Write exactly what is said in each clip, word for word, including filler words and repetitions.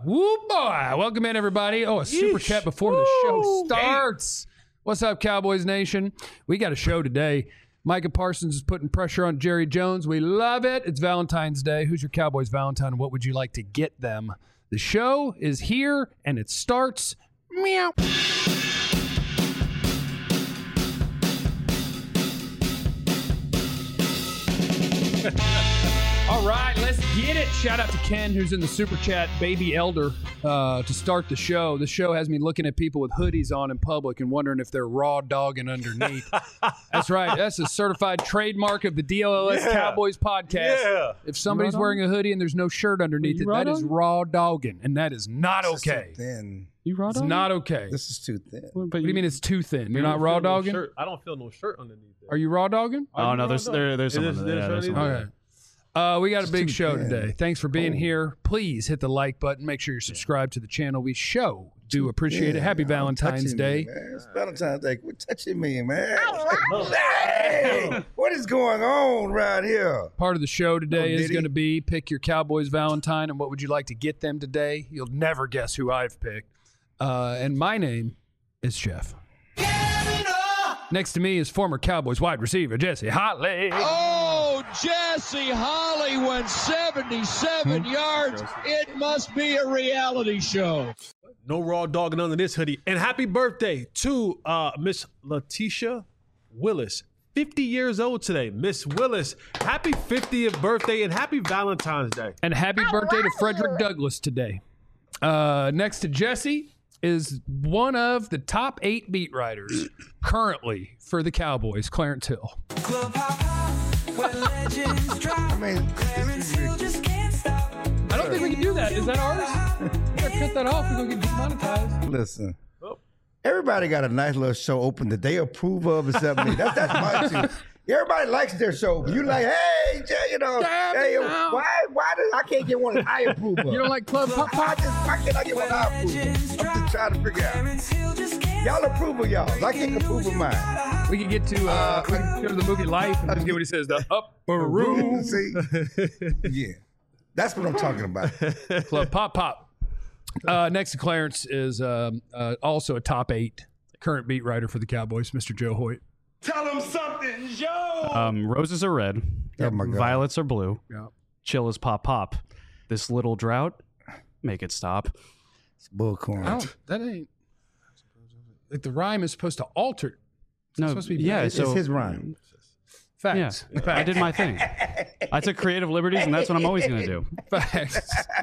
Woo boy. Welcome in, everybody. Oh, a super Yeesh. chat before the show starts. What's up, Cowboys Nation? We got a show today. Micah Parsons is putting pressure on Jerry Jones. We love it. It's Valentine's Day. Who's your Cowboys Valentine, and what would you like to get them? The show is here, and it starts. Meow. All right, let's get it. Shout out to Ken, who's in the super chat, baby elder, uh, to start the show. The show has me looking at people with hoodies on in public and wondering if they're raw dogging underneath. That's right. That's a certified trademark of the D L L S Yeah. Cowboys podcast. Yeah. If somebody's wearing a hoodie and there's no shirt underneath it, that is raw dogging, and that is not This is okay. too thin. You raw It's dog? not okay. This is too thin. But What do you mean it's too thin? You're not raw dogging? No I don't feel no shirt underneath it. Are you raw dogging? Oh no, there's there, there's Is someone. there- Yeah, there's there's shirt someone. Okay. Uh, we got a It's big too show thin. today. Thanks for being Oh. here. Please hit the like button. Make sure you're subscribed to the channel. We show do appreciate it. Happy Yeah, Valentine's touching Day. Me, man. It's Valentine's Day. Quit touching me, man. Hey, what is going on right here? Part of the show today Oh, is did he? going to be pick your Cowboys Valentine and what would you like to get them today. You'll never guess who I've picked. Uh, and my name is Jeff. Next to me is former Cowboys wide receiver Jesse Hotley. Oh, Jesse Holly went seventy-seven yards. It must be a reality show. No raw dogging under this hoodie. And happy birthday to uh, Miss Letitia Willis. fifty years old today. Miss Willis, happy fiftieth birthday and happy Valentine's Day. And happy birthday to Frederick Douglass today. Uh, next to Jesse is one of the top eight beat writers currently for the Cowboys, Clarence Hill. I mean, this is I don't think we can do that. Is that ours? We gotta cut that off. We're gonna get demonetized. listen. Everybody got a nice little show open that they approve of or something. That's that's my too. Everybody likes their show, but you like, hey, Jay, you know, Damn hey, it now. why, why does I can't get one that I approve of? You don't like Club Pop Why, Pop? just, why can't I get one I approve of? I'm just trying to figure out. Y'all approve of y'all. I can't approve of mine. We can get to uh, we can go to the movie Life and just get what he says. The upper room. See? Yeah. That's what I'm talking about. Club Pop Pop. Uh, next to Clarence is um, uh, also a top eight current beat writer for the Cowboys, Mister Joe Hoyt. Tell him something, Joe. Um, roses are red. Oh, my God. Violets are blue. Yeah. Chill is pop pop. This little drought, make it stop. It's bullcorn. I don't, that ain't like the rhyme is supposed to alter. It's No, supposed to be yeah, It's so his rhyme. facts. Yeah, I did my thing. I took creative liberties, and that's what I'm always going to do. Facts.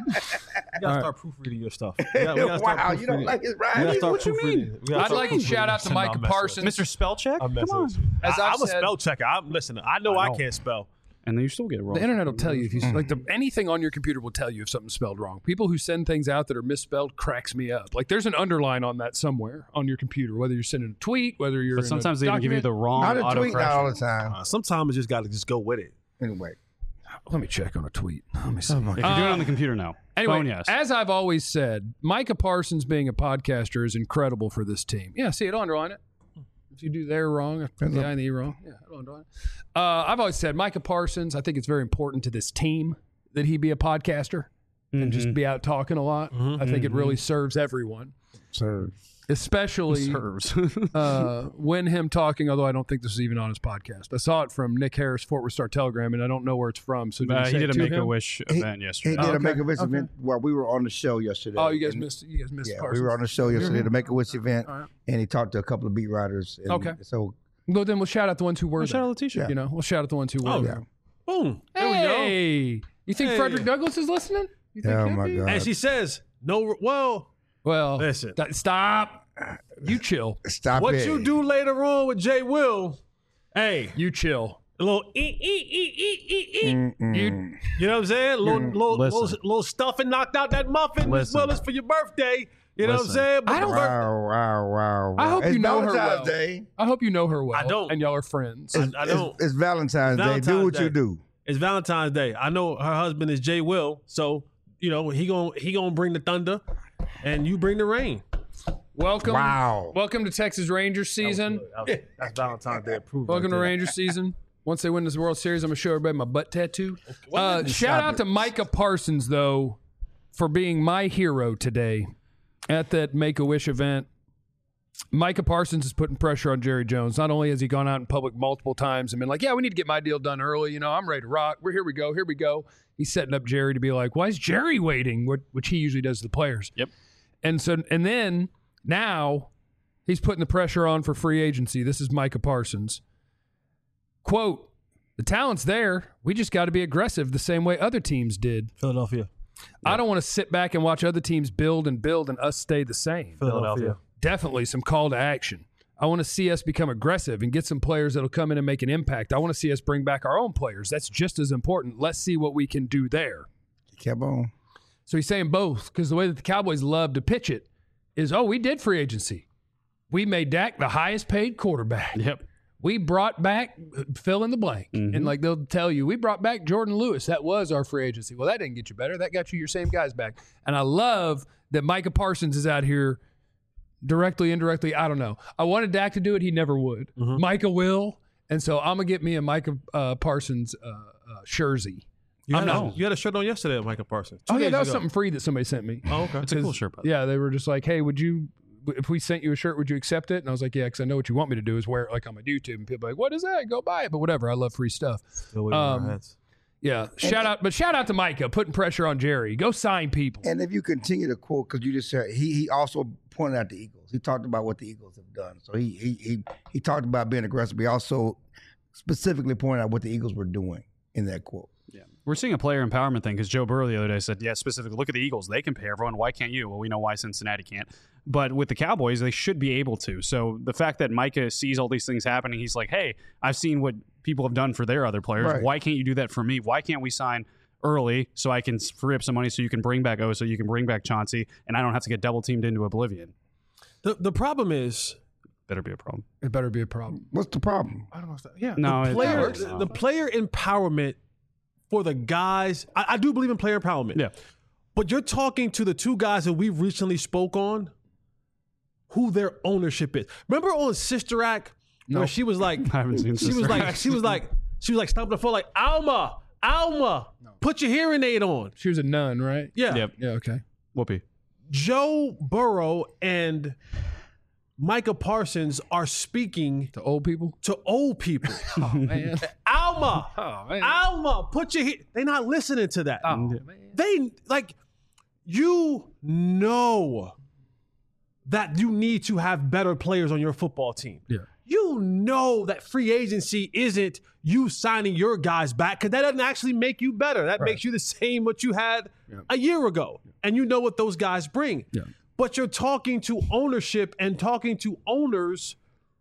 We gotta start proofreading your stuff. We gotta, we gotta start Wow, you don't proofreading. like his We gotta rhyme? start What you proofreading. mean? We gotta I'd start like to proofreading. shout out to No, Micah I'm messing with Parsons. you. Mister Spellcheck? I'm Come messing on. with you. As I, I've I'm a said- spell checker. I'm listen. I know I, know. can't spell. And then you still get it wrong. The internet will tell you if you like the, anything on your computer will tell you if something's spelled wrong. People who send things out that are misspelled cracks me up. Like there's an underline on that somewhere on your computer, whether you're sending a tweet, whether you're But in a sometimes they even give you document. the wrong Not a tweet not all the autocorrection. time. Uh, sometimes you just gotta just go with it. Anyway. Let me check on a tweet. Let me see. If you're doing it on the computer now. Anyway, Phone, yes. as I've always said, Micah Parsons being a podcaster is incredible for this team. Yeah, see, it'll underline it. If you do there wrong, I put the I and the E wrong. Yeah, it'll underline it. Uh, I've always said Micah Parsons, I think it's very important to this team that he be a podcaster and just be out talking a lot. I think it really serves everyone. Sir. Especially Serves. uh, when him talking, although I don't think this is even on his podcast. I saw it from Nick Harris, Fort Worth Star Telegram, and I don't know where it's from. So did Uh, you he say did it a to Make him? a Wish He- event He yesterday. did a Okay, Make a Wish okay. event while we were on the show yesterday. Oh, you guys And- missed you guys missed Yeah, Parsons. we were on the show yesterday, the Make a Wish event, All right. and he talked to a couple of beat writers. And Okay. So, Well, then we'll shout out the ones who were Well, there. shout out Letitia. You know, we'll shout out the ones who were Oh, there. Boom. There we go. Hey, you think Hey. Frederick Douglass is listening? You think oh he'll my be? God. And she says, no, well, Well, Listen. th- stop. You chill. Stop what it. you do later on with Jay Will, hey, You chill. a little ee, ee, ee, ee, ee, ee. Mm-mm. You You know what I'm saying? Little, little, little, Listen. little stuffing knocked out that muffin as Listen. well as for your birthday. You know what I'm Listen. saying? But I don't- the bir- Wow, wow, wow, wow. I hope it's you know her Valentine's well. Day. I hope you know her well. I don't. And y'all are friends. I, It's, I don't. It's, it's Valentine's, Day. Do Valentine's what you Day. do. It's Valentine's Day. I know her husband is Jay Will, so you know he gon' he gonna bring the thunder, and you bring the rain. Welcome. Wow. Welcome to Texas Rangers season. That's Valentine's Day approved. Welcome to Rangers season. Once they win this World Series, I'm gonna show everybody my butt tattoo. Uh, shout Stop out it. to Micah Parsons though for being my hero today at that Make-A-Wish event. Micah Parsons is putting pressure on Jerry Jones. Not only has he gone out in public multiple times and been like, yeah, we need to get my deal done early. You know, I'm ready to rock. We're here we go. Here we go. He's setting up Jerry to be like, why is Jerry waiting? Which he usually does to the players. Yep. And so, and then now he's putting the pressure on for free agency. This is Micah Parsons. Quote, the talent's there. We just got to be aggressive the same way other teams did. Philadelphia. I don't want to sit back and watch other teams build and build and us stay the same. Philadelphia. Definitely some call to action. I want to see us become aggressive and get some players that'll come in and make an impact. I want to see us bring back our own players. That's just as important. Let's see what we can do there. Kept on. So he's saying both, because the way that the Cowboys love to pitch it is, oh, we did free agency. We made Dak the highest paid quarterback. Yep. We brought back fill in the blank. Mm-hmm. And like they'll tell you, we brought back Jordan Lewis. That was our free agency. Well, that didn't get you better. That got you your same guys back. And I love that Micah Parsons is out here directly, indirectly, I don't know. I wanted Dak to do it. He never would. Mm-hmm. Micah will. And so I'm going to get me a Micah uh, Parsons uh, uh, jersey. You I'm had, not, a, you had a shirt on yesterday of Micah Parsons. Two oh, yeah, days that was ago. something free that somebody sent me. Oh, okay. It's a cool shirt, by the way. Yeah, they were just like, hey, would you, if we sent you a shirt, would you accept it? And I was like, yeah, because I know what you want me to do is wear it like on my YouTube. And people are like, what is that? Go buy it. But whatever. I love free stuff. Still waiting on our heads. Yeah. Shout out, but shout out to Micah putting pressure on Jerry. Go sign people. And if you continue to quote, because you just said he he also pointed out the Eagles. He talked about what the Eagles have done. So he he he he talked about being aggressive. But he also specifically pointed out what the Eagles were doing in that quote. Yeah. We're seeing a player empowerment thing because Joe Burrow the other day said, yeah, specifically, look at the Eagles. They can pay everyone. Why can't you? Well, we know why Cincinnati can't. But with the Cowboys, they should be able to. So the fact that Micah sees all these things happening, he's like, hey, I've seen what people have done for their other players. Right. Why can't you do that for me? Why can't we sign early so I can free up some money so you can bring back O, so you can bring back Chauncey, and I don't have to get double teamed into oblivion? The the problem is Better be a problem. It better be a problem. What's the problem? I don't know. Yeah. No, the it- player works. the, the player empowerment for the guys. I, I do believe in player empowerment. Yeah. But you're talking to the two guys that we recently spoke on, who their ownership is. Remember on Sister Act where No. she was like, I haven't seen she Sister was like, Act. she was like, she was like stomping the floor like, Alma, Alma, put your hearing aid on. She was a nun, right? Yeah. Yep. Yeah. Okay. Whoopee. Joe Burrow and Micah Parsons are speaking To old people. to old people. Oh man. Alma, Oh man. Alma, put your he-. They're not listening to that. Oh man. They like you know that you need to have better players on your football team. Yeah. You know that free agency isn't you signing your guys back because that doesn't actually make you better. That makes you the same what you had Yeah. a year ago. And you know what those guys bring. Yeah. But you're talking to ownership and talking to owners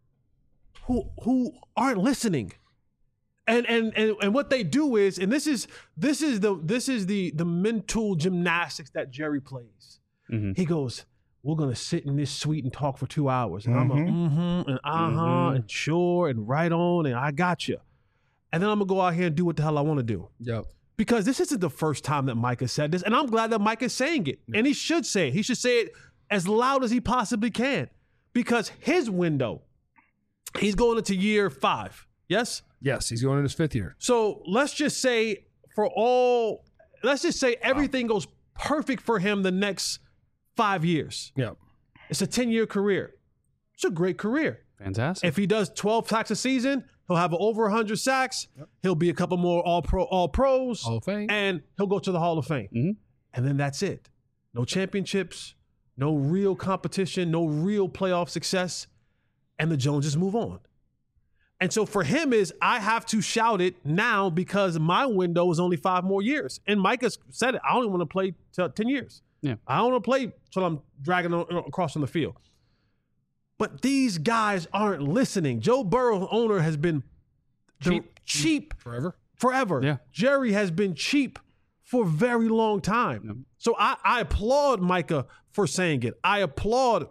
who who aren't listening. And and and and what they do is, and this is this is the this is the the mental gymnastics that Jerry plays. Mhm. He goes, we're gonna sit in this suite and talk for two hours. And I'm a mm-hmm and uh-huh Mhm. and sure and right on and I got you. And then I'm gonna go out here and do what the hell I want to do. Yep. Because this isn't the first time that Micah said this, and I'm glad that Micah's saying it. And he should say it. He should say it as loud as he possibly can. Because his window, he's going into year five. Yes? Yes, he's going in his fifth year. So let's just say for all, let's just say everything goes perfect for him the next five years. Yep. It's a ten-year career. It's a great career. Fantastic. If he does twelve sacks a season, he'll have over one hundred sacks. He'll be a couple more all-pro, all-pros. Hall of Fame. And he'll go to the Hall of Fame. Mhm. And then that's it. No championships, no real competition, no real playoff success. And the Joneses move on. And so for him is, I have to shout it now because my window is only five more years. And Micah said it. I only want to play till ten years. Yeah. I don't want to play till I'm dragging on, across on the field. But these guys aren't listening. Joe Burrow, owner, has been the- Cheap. cheap Forever. forever. Yeah. Jerry has been cheap for a very long time. So I, I applaud Micah for saying it. I applaud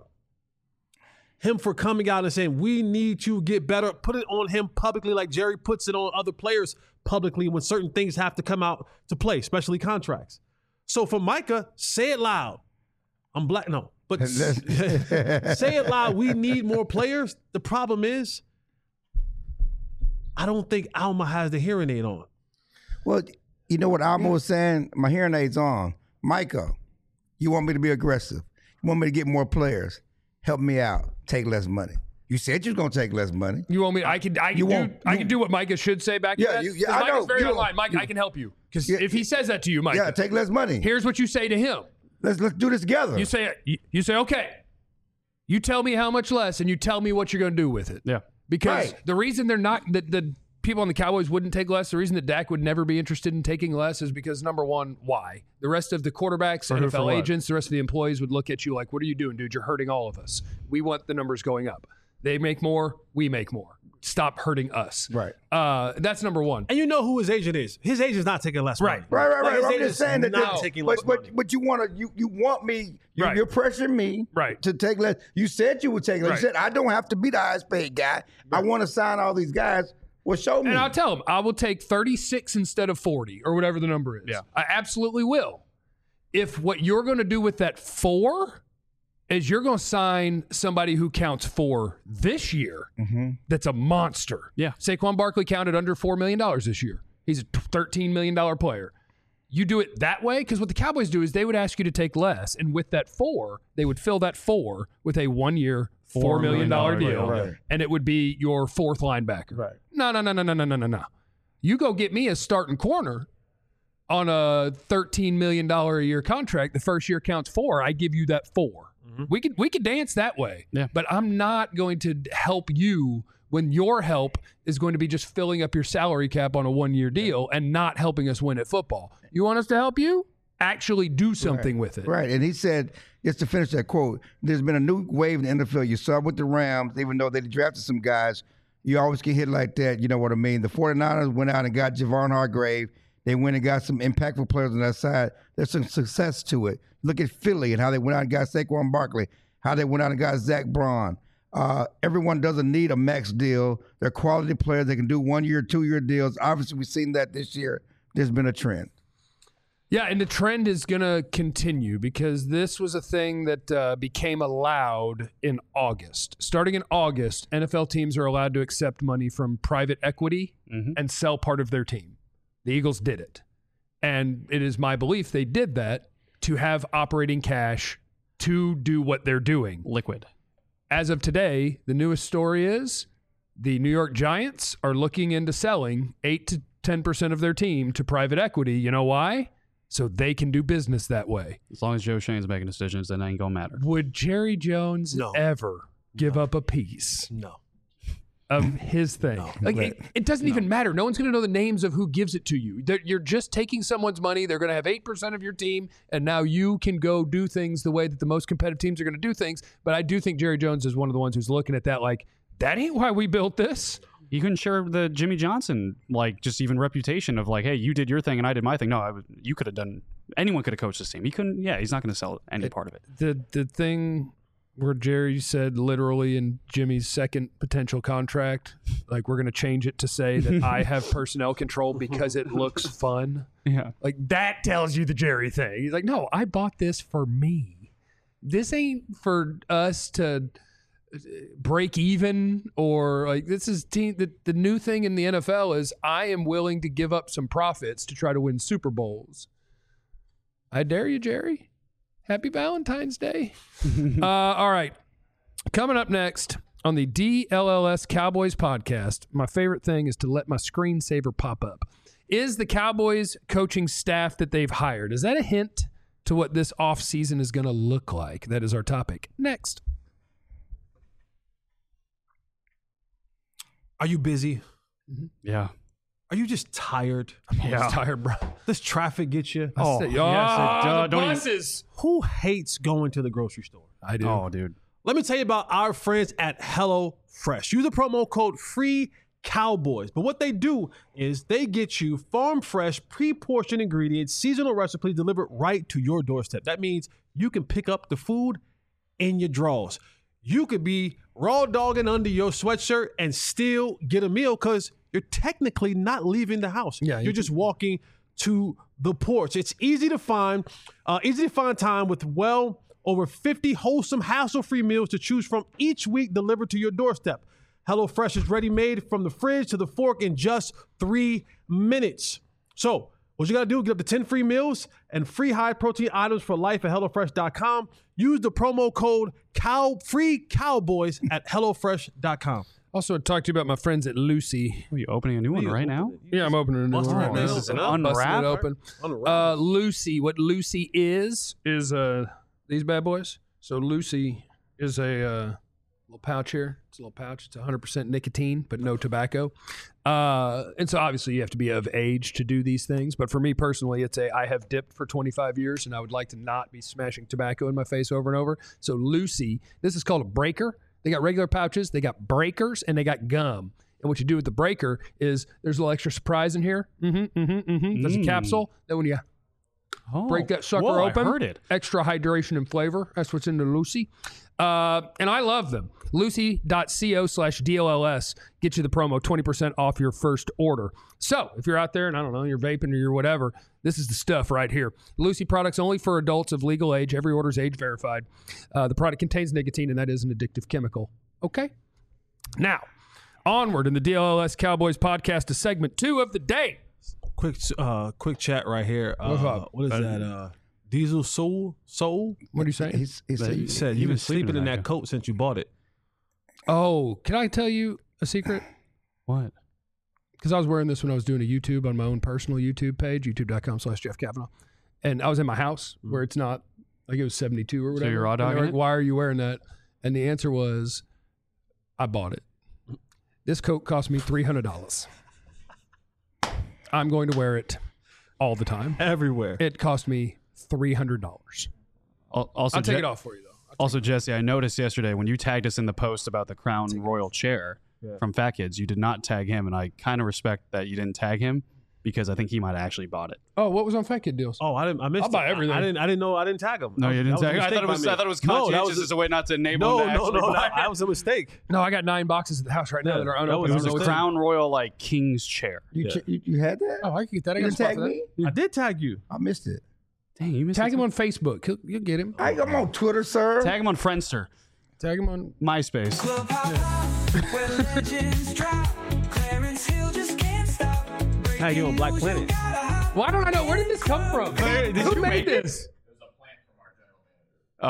him for coming out and saying, we need to get better. Put it on him publicly like Jerry puts it on other players publicly when certain things have to come out to play, especially contracts. So for Micah, say it loud. I'm black. No, but say it loud. We need more players. The problem is, I don't think Alma has the hearing aid on. Well, you know what Alma was saying? My hearing aid's on. Micah, You want me to be aggressive. You want me to get more players. Help me out. Take less money. You said you was gonna take less money. You want me? I can. I can You do. won't- I you- can do what Micah should say back. Yeah, to that. you- yeah, 'Cause I Micah's know. very You- online. Mike, you- I can help you because Yeah, if he says that to you, Micah, Yeah, take less money. here's what you say to him. Let's let's do this together. You say. You, you say, okay. You tell me how much less, and you tell me what you're going to do with it. Yeah. Because Right. the reason they're not the, the people on the Cowboys wouldn't take less, the reason that Dak would never be interested in taking less is because number one, why? The rest of the quarterbacks, who, N F L for what? agents, the rest of the employees would look at you like, what are you doing, dude? You're hurting all of us. We want the numbers going up. They make more, we make more. Stop hurting us. Right. Uh, that's number one. And you know who his agent is. His agent's not taking less money. Right. Right, right, Like, right. his I'm agent's just saying that. not that- taking but, less but, money. but you want to, you you want me. You, Right. You're pressuring me. Right. To take less. You said you would take less. Right. You said I don't have to be the highest paid guy. I want to sign all these guys. Well, show me. And I'll tell him, I will take thirty-six instead of forty or whatever the number is. Yeah. I absolutely will. If what you're going to do with that four is you're going to sign somebody who counts four this year, that's a monster. Yeah. Saquon Barkley counted under four million dollars this year. He's a thirteen million dollars player. You do it that way, because what the Cowboys do is they would ask you to take less, and with that four, they would fill that four with a one-year, four million dollars deal, Right. and it would be your fourth linebacker. Right. No, no, no, no, no, no, no, no, no. You go get me a starting corner on a thirteen million dollars a year contract. The first year counts four. I give you that four. We could we could dance that way. Yeah. But I'm not going to help you when your help is going to be just filling up your salary cap on a one-year deal and not helping us win at football. You want us to help you? Actually do something with it. Right. And he said, just to finish that quote, there's been a new wave in the N F L. You saw it with the Rams, even though they drafted some guys, you always get hit like that. You know what I mean? The 49ers went out and got Javon Hargrave. They went and got some impactful players on that side. There's some success to it. Look at Philly and how they went out and got Saquon Barkley, how they went out and got Zach Braun. Uh, everyone doesn't need a max deal. They're quality players. They can do one-year, two-year deals. Obviously, we've seen that this year. There's been a trend. Yeah, and the trend is going to continue because this was a thing that uh, became allowed in August. Starting in August, N F L teams are allowed to accept money from private equity Mhm. and sell part of their team. The Eagles did it. And it is my belief they did that to have operating cash to do what they're doing. Liquid. As of today, the newest story is the New York Giants are looking into selling eight to ten percent of their team to private equity. You know why? So they can do business that way. As long as Joe Shane's making decisions, then it ain't gonna matter. Would Jerry Jones No. ever give up a piece No. of his thing? Like it, it doesn't even matter. No one's going to know the names of who gives it to you. They're, you're just taking someone's money. They're going to have eight percent of your team, and now you can go do things the way that the most competitive teams are going to do things. But I do think Jerry Jones is one of the ones who's looking at that like, that ain't why we built this. You couldn't share the Jimmy Johnson, like, just even reputation of like, hey, you did your thing and I did my thing. No, I was, you could have done. Anyone could have coached this team. He couldn't. Yeah, he's not going to sell any part of it. The the thing where Jerry said literally in Jimmy's second potential contract, like we're going to change it to say that I have personnel control because it looks fun. Yeah. Like that tells you the Jerry thing. He's like, no, I bought this for me. This ain't for us to break even or like this is team. The, the new thing in the N F L is I am willing to give up some profits to try to win Super Bowls. I dare you, Jerry. Happy Valentine's Day. uh, all right. Coming up next on the D L L S Cowboys podcast, my favorite thing is to let my screensaver pop up. Is the Cowboys coaching staff that they've hired, is that a hint to what this offseason is going to look like? That is our topic. Next. Are you busy? Yeah. Are you just tired? I'm always tired, bro. Does traffic get you? Oh, Say, yes, it "Ah, does. the Don't even- buses." Who hates going to the grocery store? I do. Oh, dude. Let me tell you about our friends at HelloFresh. Use the promo code FREECOWBOYS. But what they do is they get you farm fresh, pre-portioned ingredients, seasonal recipes delivered right to your doorstep. That means you can pick up the food in your drawers. You could be raw dogging under your sweatshirt and still get a meal because you're technically not leaving the house. Yeah, you You're just walking to the porch. It's easy to find, uh, easy to find time with well over fifty wholesome, hassle-free meals to choose from each week delivered to your doorstep. HelloFresh is ready-made from the fridge to the fork in just three minutes. So What you got to do, get up to ten free meals and free high-protein items for life at HelloFresh dot com. Use the promo code cow free cowboys at HelloFresh dot com. Also, I talked to you about my friends at Lucy. Are you opening a new one you right open now? Yeah, I'm opening a new Busting one. that Right thing now. This is an open. Busting unwrap. it open. Unwrap. Uh, Lucy, what Lucy is is uh these bad boys. So Lucy is a uh, little pouch here. It's a little pouch. It's one hundred percent nicotine, but no tobacco. Uh, and so obviously you have to be of age to do these things. But for me personally, it's a I have dipped for twenty-five years, and I would like to not be smashing tobacco in my face over and over. So Lucy, this is called a breaker. They got regular pouches, they got breakers, and they got gum. And what you do with the breaker is there's a little extra surprise in here. Mm-hmm, mm-hmm, mm-hmm. There's a Mm. capsule. Then when you Oh, break that sucker whoa, open, I heard it. extra hydration and flavor. That's what's in the Lucy. Uh, and I love them. Lucy.co slash D O L S. Get you the promo, twenty percent off your first order. So if you're out there and I don't know, you're vaping or you're whatever, this is the stuff right here. Lucy products only for adults of legal age. Every order is age verified. Uh, the product contains nicotine, and that is an addictive chemical. Okay? Now, onward in the D L L S Cowboys podcast to segment two of the day. Quick, uh, quick chat right here. What's Uh, up? what is that? Uh, Diesel Soul Soul. What are you saying? He's, he's, He he, said he you've been was sleeping sleeping in in that that coat since you bought it. Oh, can I tell you a secret? What? Because I was wearing this when I was doing a YouTube on my own personal YouTube page, youtube.com slash Jeff Kavanaugh. And I was in my house where it's not, like it was seventy-two or whatever. you're raw And they were dogging like, it? why are you wearing that? And the answer was, I bought it. This coat cost me three hundred dollars. I'm going to wear it all the time. Everywhere. It cost me three hundred dollars. Al- Also, I'll take Je- it off for you, though. I'll Also, Jesse, I noticed yesterday when you tagged us in the post about the Crown Royal chair from Fat Kids, you did not tag him, and I kind of respect that you didn't tag him because I think he might have actually bought it. Oh, what was on Fat Kid Deals? Oh, I didn't. I missed. I'll buy it. everything. I, I didn't. I didn't know. I didn't tag him. No, you didn't That was a tag him. I mistake thought it by was. me. I thought it was No, that conscientious was as a way not to enable No, him to no, actually no. buy That, it. that was a mistake. No, I got nine boxes at the house right now Yeah, that are that unopened. was It a was a mistake. Crown Royal like King's chair. you, ch- you, you had that? Oh, I can get that. I you got a didn't spot tag for that. me? I did tag you. I missed it. Dang, you missed Tag it him too. on Facebook. He'll, you'll get him. I, I'm on Twitter, sir. Tag him on Friendster, Tag him on. MySpace. Tag you on Black Planet. Why don't I know? Where did this come from? Hey, did Who you made make this? Oh,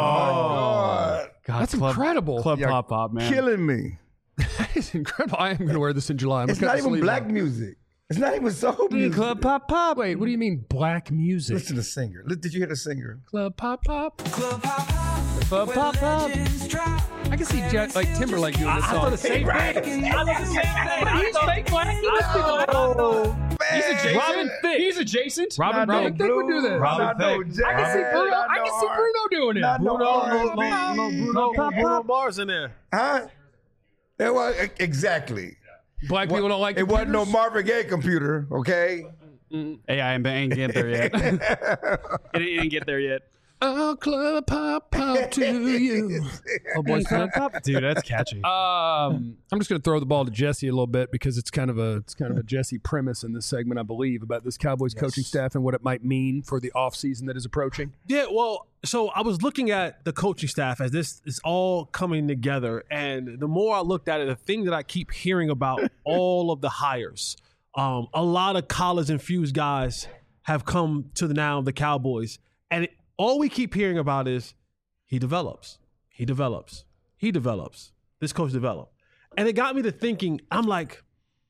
God. God, That's Club, incredible. Club You're Pop Pop, man. Killing me. That is incredible. I am going to wear this in July. I'm It's gonna not cut the even sleeves black off. music. It's not even soul music. Club Pop Pop. Wait, what do you mean black music? Listen to the singer. Li- Did you hear the singer? Club pop pop. Club Pop Pop. I can see Jet, like Timberlake doing this I song. thought the same thing. I thought the same thing. He's fake black. He must be black. Oh, man. He's adjacent. Robin Thicke. He's adjacent. Robin Robin Thicke. Thicke would do this. Robin Not no Thicke. jazz, I can see Bruno. not I no can see R- Bruno doing it. not no Bruno, R no, and B. no, no, Bruno, Bruno Mars in there. Huh? It was, exactly. Black people don't like It wasn't no computers? Marvin Gaye computer, okay? Hey, I ain't, ain't get there yet. it didn't get there yet. Oh, club pop pop to you. Oh, boy, Club Pop, dude, that's catchy. Um, I'm just going to throw the ball to Jesse a little bit because it's kind of a it's kind of a Jesse premise in this segment, I believe, about this Cowboys coaching staff and what it might mean for the offseason that is approaching. Yeah, well, so I was looking at the coaching staff as this is all coming together, and the more I looked at it, the thing that I keep hearing about all of the hires, um, a lot of college-infused guys have come to the now the Cowboys, and it, all we keep hearing about is he develops, he develops, he develops. This coach developed, and it got me to thinking. I'm like,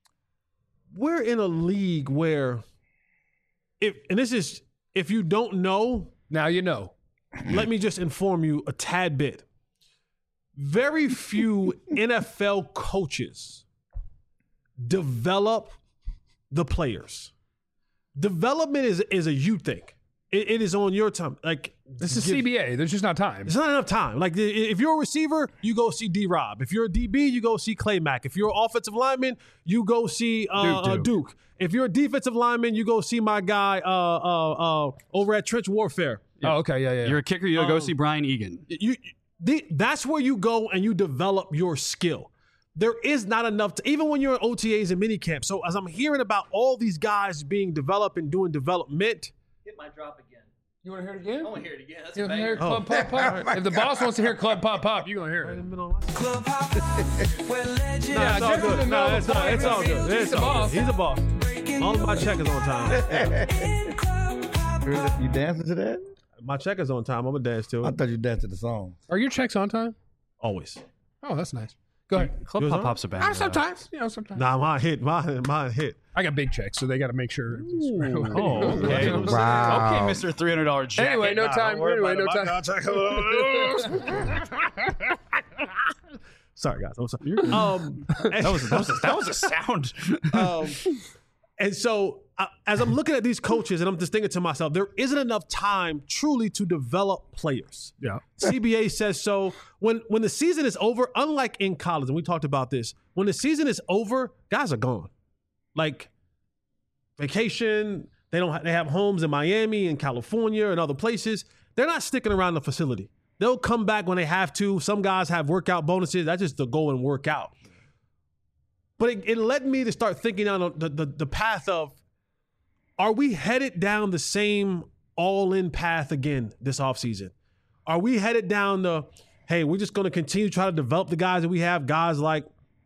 we're in a league where, if and this is if you don't know. Now you know. Let me just inform you a tad bit. Very few N F L coaches develop the players. Development is, is a you thing. It, it is on your time. Like This is give- C B A. There's just not time. It's not enough time. Like i- if you're a receiver, you go see D Rob. If you're a D B, you go see Clay Mack. If you're an offensive lineman, you go see uh, Duke, uh, Duke. Duke. If you're a defensive lineman, you go see my guy uh, uh, uh, over at Trench Warfare. Oh, okay. Yeah, yeah. yeah. You're a kicker, you go Um, see Brian Egan. You, the, that's where you go and you develop your skill. There is not enough to, even when you're in O T As and minicamp. So as I'm hearing about all these guys being developed and doing development, Hit my drop again. You want to hear it again? I want to hear it again. That's You a want to hear banger. Club Pop Pop? If the boss wants to hear Club Pop Pop, you're going to hear it. no, Yeah, it's all Jeff good. doesn't No, know it's the all, it's all point. good. He's It's the all boss. good. He's a boss. All of my checkers on time. You dancing to that? My checkers on time. I'm gonna dance to I it. thought you danced to the song. Are your checks on time? Always. Oh, that's nice. Go ahead. Club Yours Pop on? Pop's a band. Ah, uh, sometimes. You know, sometimes. Nah, mine hit. Mine, mine hit. I got big checks, so they got to make sure. Oh, okay. Wow. Okay, Mister three hundred dollars jacket. Anyway, no Nah, time. don't worry Anyway, no about time. Sorry, guys. I'm sorry. Um, That was that was a, that was a sound. um, and so, uh, as I'm looking at these coaches, and I'm just thinking to myself, there isn't enough time truly to develop players. Yeah. C B A says so. When when the season is over, unlike in college, and we talked about this, when the season is over, guys are gone. Like vacation, they don't. Ha- they have homes in Miami and California and other places. They're not sticking around the facility. They'll come back when they have to. Some guys have workout bonuses. That's just to go and work out. But it, it led me to start thinking on the, the, the path of, are we headed down the same all-in path again this offseason? Are we headed down the, hey, we're just going to continue to try to develop the guys that we have, guys like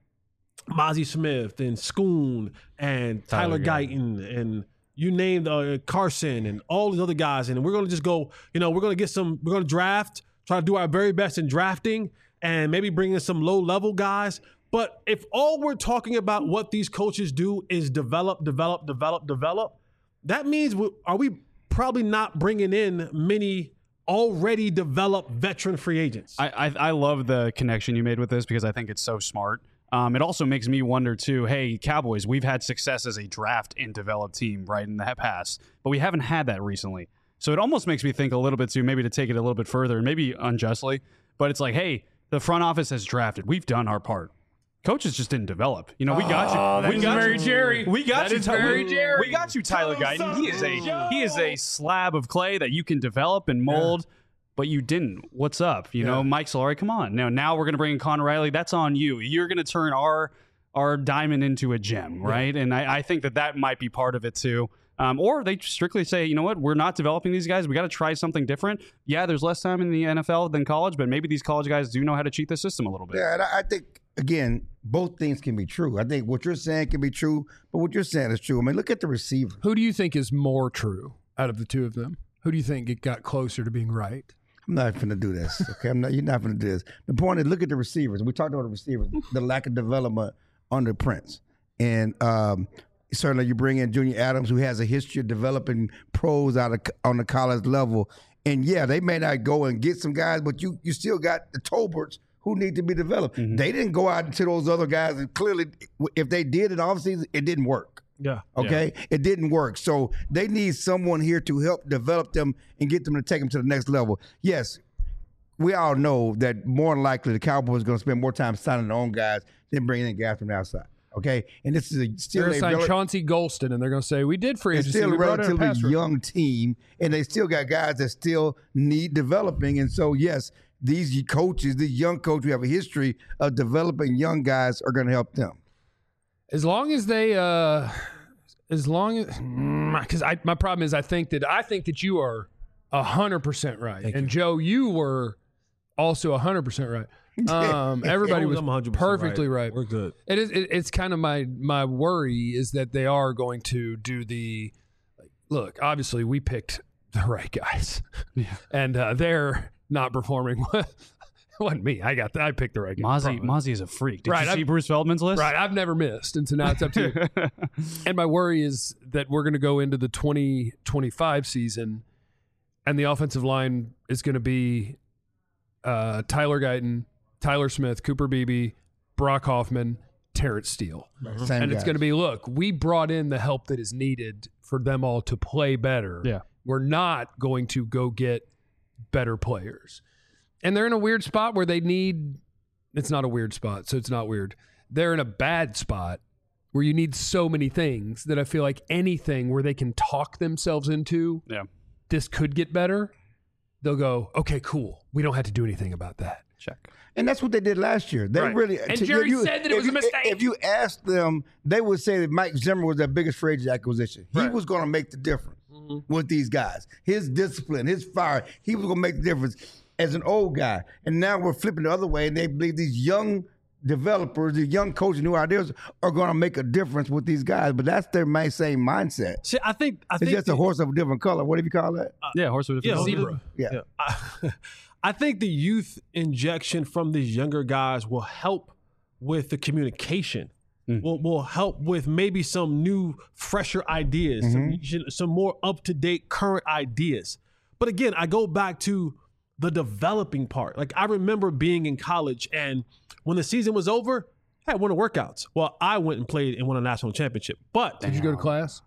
Mozzie Smith and Schoon and Tyler, Tyler Guyton and you named uh, Carson and all these other guys, and we're going to just go, you know, we're going to get some, we're going to draft, try to do our very best in drafting and maybe bring in some low-level guys. But if all we're talking about what these coaches do is develop, develop, develop, develop, that means we, are we probably not bringing in many already developed veteran free agents? I, I I love the connection you made with this because I think it's so smart. Um, it also makes me wonder too. Hey, Cowboys, we've had success as a draft and develop team, right, in the past, but we haven't had that recently. So it almost makes me think a little bit too, maybe to take it a little bit further, and maybe unjustly, but it's like, hey, the front office has drafted. We've done our part. Coaches just didn't develop. You know, we got Oh, you. that We is got very you. Jerry. We got That you. is Ty- very we, Jerry. we got you, Tyler Guyton. He is a he is a slab of clay that you can develop and mold. Yeah. But you didn't. What's up? You Yeah. know, Mike Solari, come on. Now, now we're going to bring in Conor Riley. That's on you. You're going to turn our our diamond into a gem, right? Yeah. And I, I think that that might be part of it too. Um, or they strictly say, you know what, we're not developing these guys. We got to try something different. Yeah, there's less time in the N F L than college, but maybe these college guys do know how to cheat the system a little bit. Yeah, and I I think, again, both things can be true. I think what you're saying can be true, but what you're saying is true. I mean, look at the receiver. Who do you think is more true out of the two of them? Who do you think it got closer to being right? I'm not going to do this. Okay, I'm not. You're not going to do this. The point is, look at the receivers. We talked about the receivers, the lack of development under Prince, and um, certainly you bring in Junior Adams, who has a history of developing pros out of on the college level. And yeah, they may not go and get some guys, but you you still got the Tolberts who need to be developed. Mm-hmm. They didn't go out to those other guys, and clearly, if they did in offseason, it didn't work. Yeah. Okay? Yeah. It didn't work. So they need someone here to help develop them and get them to take them to the next level. Yes, we all know that more than likely the Cowboys are going to spend more time signing their own guys than bringing in guys from the outside. Okay? And this is a, still They're a going to sign rel- Chauncey Golston, and they're going to say, we did free it's agency. still a We brought in a relatively pass rusher. young team, and they still got guys that still need developing. And so, yes, these coaches, these young coaches who have a history of developing young guys are going to help them. As long as they, uh, as long as, because I, my problem is I think that I think that you are a hundred percent right, Thank and you. Joe, you were also a hundred percent right. Um, everybody was I'm one hundred percent perfectly right. We're good. It is. It, it's kind of my my worry is that they are going to do the. Like, look, obviously, we picked the right guys, Yeah. and uh, they're not performing. It wasn't me. I got. The, I picked the right guys. Mozzie, Probably. Mozzie is a freak. Did Right, you see I've- Bruce Feldman's list? Right, I've never missed, and so now it's up to you. And my worry is that we're going to go into the twenty twenty-five season, and the offensive line is going to be uh, Tyler Guyton, Tyler Smith, Cooper Beebe, Brock Hoffman, Terrence Steele. Same And it's guys. going to be, look, we brought in the help that is needed for them all to play better. Yeah. We're not going to go get better players. And they're in a weird spot where they need, it's not a weird spot, so it's not weird. They're in a bad spot where you need so many things that I feel like anything where they can talk themselves into, Yeah. this could get better, they'll go, okay, cool. We don't have to do anything about that. Check. And that's what they did last year. They Right. really And to- Jerry you- said that it if was a you- mistake. If you asked them, they would say that Mike Zimmer was their biggest free agent acquisition. He Right. was going to make the difference with these guys. His discipline, his fire, he was going to make the difference as an old guy. And now we're flipping the other way, and they believe these young developers, the young coaches, new ideas are going to make a difference with these guys. But that's their main same mindset. See, I think I It's think just a horse of a different color. What do you call that? yeah, horse with a yeah, different zebra. Yeah. Yeah. I, I think the youth injection from these younger guys will help with the communication. Mm. Will will help with maybe some new, fresher ideas, Mm-hmm. some some more up to date, current ideas. But again, I go back to the developing part. Like I remember being in college, and when the season was over, I had one of workouts. Well, I went and played and won a national championship. But Did you go to class?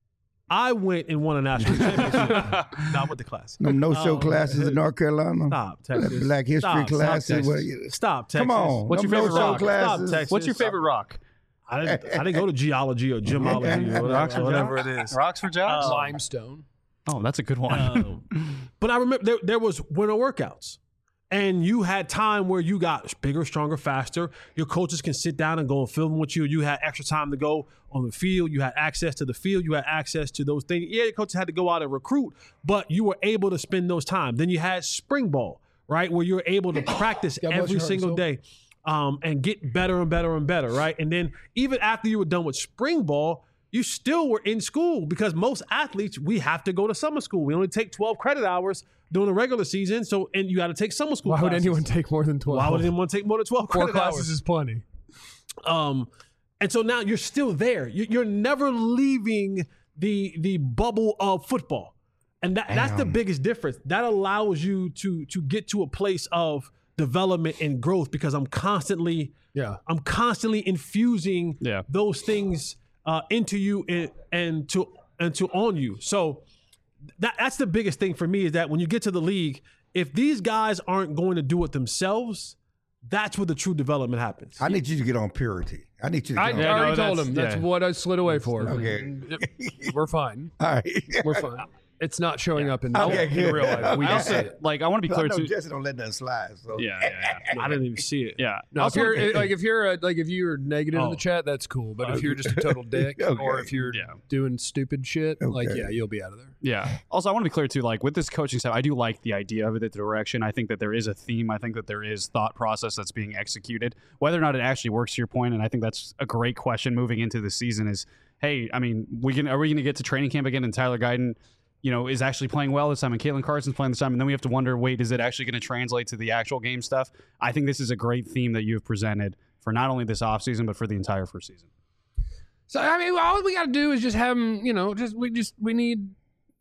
I went and won a national championship. Not with the class. No, no show Um, classes in North Carolina. Stop, Texas. Black history Stop, classes. Stop, What- Texas. Stop, Texas. Come on. What's your Them favorite no-show rock? classes. Stop, Texas. What's your favorite rock? I didn't, I didn't go to geology or gemology or Rocks for whatever, whatever jocks? it is. Rocks for jocks? Uh, Limestone. Oh, that's a good one. Um, but I remember there, there was winter workouts. And you had time where you got bigger, stronger, faster. Your coaches can sit down and go and film with you. You had extra time to go on the field. You had access to the field. You had access to those things. Yeah, your coaches had to go out and recruit, but you were able to spend those time. Then you had spring ball, right, where you were able to practice God bless every your heart and single soul. day um, and get better and better and better, right? And then even after you were done with spring ball, you still were in school because most athletes, we have to go to summer school. We only take twelve credit hours during the regular season. So, and you got to take summer school Why would classes. anyone take more than twelve? Why would anyone take more than twelve Four credit classes hours? is plenty. Um, and so now you're still there. You- You're never leaving the the bubble of football, and that, that's the biggest difference. That allows you to to get to a place of development and growth because I'm constantly Yeah. I'm constantly infusing Yeah. those things uh, into you and, and to and to on you. So that that's the biggest thing for me is that when you get to the league, if these guys aren't going to do it themselves, that's where the true development happens. I need you to get on purity. I need you to I get on Yeah, already no, told that's- him. That's yeah. what I slid away for. Okay. We're fine. All right. We're fine. It's not showing up in, Okay, in good. real life. We I can also, see it. like, I want to be I clear know too. Jesse don't let nothing slide. So. Yeah, yeah, yeah. I didn't even see it. Yeah. No, if Also, you're like if you're a, like if you're negative in Oh. the chat, that's cool. But if you're just a total dick, Okay. or if you're Yeah. doing stupid shit, like Okay. yeah, you'll be out of there. Yeah. Also, I want to be clear too. Like with this coaching stuff, I do like the idea of it, the direction. I think that there is a theme. I think that there is thought process that's being executed. Whether or not it actually works, to your point, and I think that's a great question moving into the season. Is hey, I mean, we can are we going to get to training camp again? And Tyler Guyton, you know, is actually playing well this time, and Caitlin Carson's playing this time, and then we have to wonder, wait, is it actually going to translate to the actual game stuff? I think this is a great theme that you have presented for not only this offseason, but for the entire first season. So I mean, all we got to do is just have them. You know, just we just we need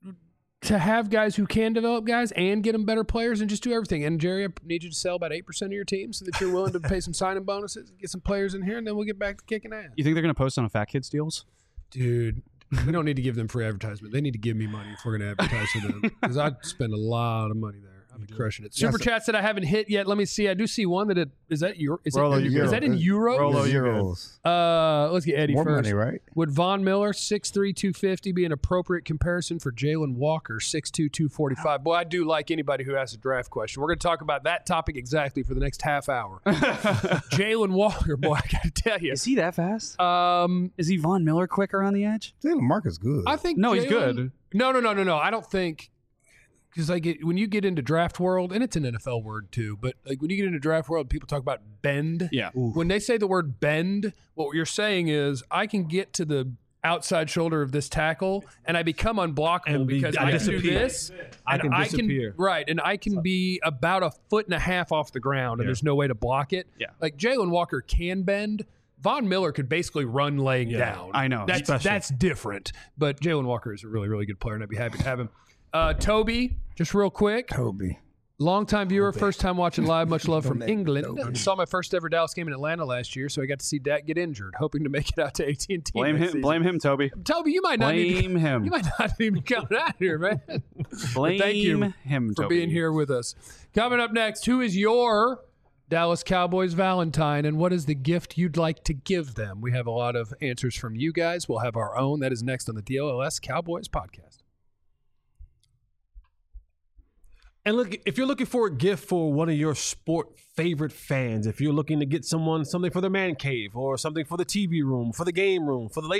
to have guys who can develop guys and get them better players and just do everything. And Jerry, I need you to sell about eight percent of your team so that you're willing to pay some signing bonuses, get some players in here, and then we'll get back to kicking ass. You think they're going to post on a Fat Kids deals? Dude, we don't need to give them free advertisement. They need to give me money if we're going to advertise for them because I'd spend a lot of money there. I'd be crushing it. Super That's a- chats that I haven't hit yet. Let me see. I do see one that it is that euro. Is, Rolo, it, you is good. that in euros? Rolo, you good. Euros. Uh, let's get Eddie More first. money, right? Would Von Miller six three, two fifty be an appropriate comparison for Jalen Walker six two, two forty-five? Boy, I do like anybody who asks a draft question. We're going to talk about that topic exactly for the next half hour. Jalen Walker, boy, I got to tell you. Is he that fast? Um, Is he Von Miller quicker on the edge? Jalen Marcus good. I think No, he's Jalen- good. No, no, no, no, no. I don't think because like it, when you get into draft world, and it's an N F L word too, but like when you get into draft world, people talk about bend. Yeah. When they say the word bend, what you're saying is I can get to the outside shoulder of this tackle and I become unblockable And be- because I I can do disappear. this. I and can disappear. right, and I can be about a foot and a half off the ground, and there's no way to block it. Yeah. Like Jalen Walker can bend. Von Miller could basically run laying Yeah, down. I know. That's Special. that's different. But Jalen Walker is a really, really good player, and I'd be happy to have him. Uh, Toby, just real quick. Toby. Longtime viewer, first time watching live. Much love from Don't England. Toby. Saw my first ever Dallas game in Atlanta last year, so I got to see Dak get injured. Hoping to make it out to A T and T. Blame him. Blame him, Toby. Toby, you might not need to, Blame him. you might not even come out here, man. Blame thank you him for Toby. being here with us. Coming up next, who is your Dallas Cowboys Valentine, and what is the gift you'd like to give them? We have a lot of answers from you guys. We'll have our own. That is next on the D L L S Cowboys podcast. And look, if you're looking for a gift for one of your sport favorite fans, if you're looking to get someone something for their man cave or something for the T V room, for the game room, for the ladies,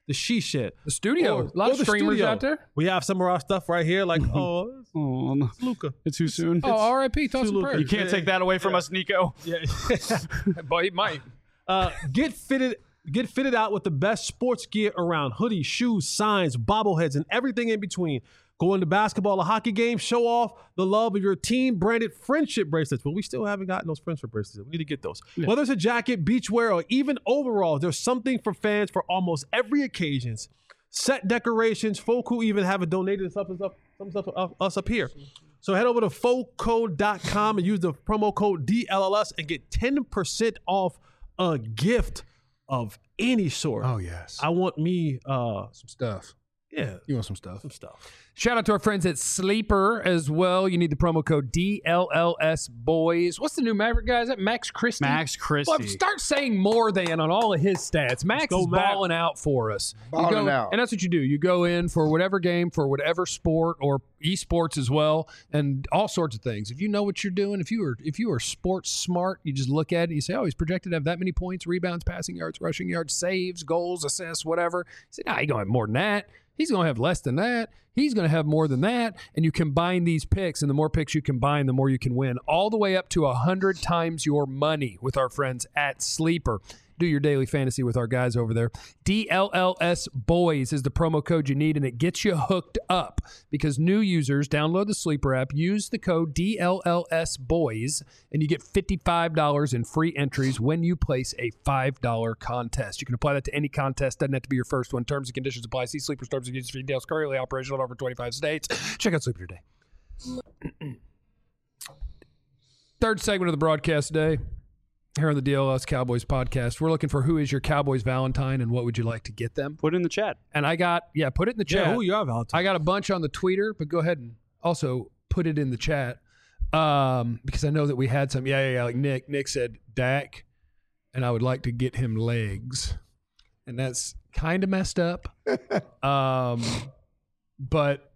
the She Shed. The studio. Or- a lot or of the streamers studio. out there. We have some of our stuff right here, like, oh, Oh, no. it's Luca. It's too soon. Oh, R I P Thoughts and Luka. prayers. You can't take that away from us, Nico. Yeah. But he might. Uh, get fitted get fitted out with the best sports gear around. Hoodies, shoes, signs, bobbleheads, and everything in between. Go into basketball or hockey games, show off the love of your team branded friendship bracelets. Well, we still haven't gotten those friendship bracelets. We need to get those. Yeah. Whether it's a jacket, beachwear, or even overalls, there's something for fans for almost every occasion. Set decorations. Foco even have it donated some stuff, some stuff of us up here. So head over to foco dot com and use the promo code D L L S and get ten percent off a gift of any sort. Oh, yes. I want me uh, some stuff. Yeah. You want some stuff? Some stuff. Shout out to our friends at Sleeper as well. You need the promo code D L L S Boys. What's the new Maverick guy? Is that Max Christie? Max Christie. Well, start saying more than on all of his stats. Max go, is Max. balling out for us. You Balling go- out. And that's what you do. You go in for whatever game, for whatever sport or esports as well, and all sorts of things. If you know what you're doing, if you are if you are sports smart, you just look at it and you say, oh, he's projected to have that many points, rebounds, passing yards, rushing yards, saves, goals, assists, whatever. You say, nah, he's going to have more than that. He's going to have less than that. He's going to have more than that. And you combine these picks, and the more picks you combine, the more you can win, all the way up to one hundred times your money with our friends at Sleeper. Do your daily fantasy with our guys over there. D L L S Boys is the promo code you need, and it gets you hooked up because new users download the Sleeper app, use the code D L L S Boys, and you get fifty-five dollars in free entries when you place a five dollar contest. You can apply that to any contest. Doesn't have to be your first one. Terms and conditions apply. See Sleeper terms and conditions for details. Currently operational in over twenty-five states. Check out Sleeper today. Third segment of the broadcast today. Here on the D L L S Cowboys podcast, we're looking for who is your Cowboys Valentine and what would you like to get them? Put it in the chat. And I got, yeah, put it in the chat. Yeah, who you are, Valentine? I got a bunch on the Twitter, but go ahead and also put it in the chat um, because I know that we had some. Yeah, yeah, yeah. Like Nick, Nick said Dak, and I would like to get him legs, and that's kind of messed up. um, but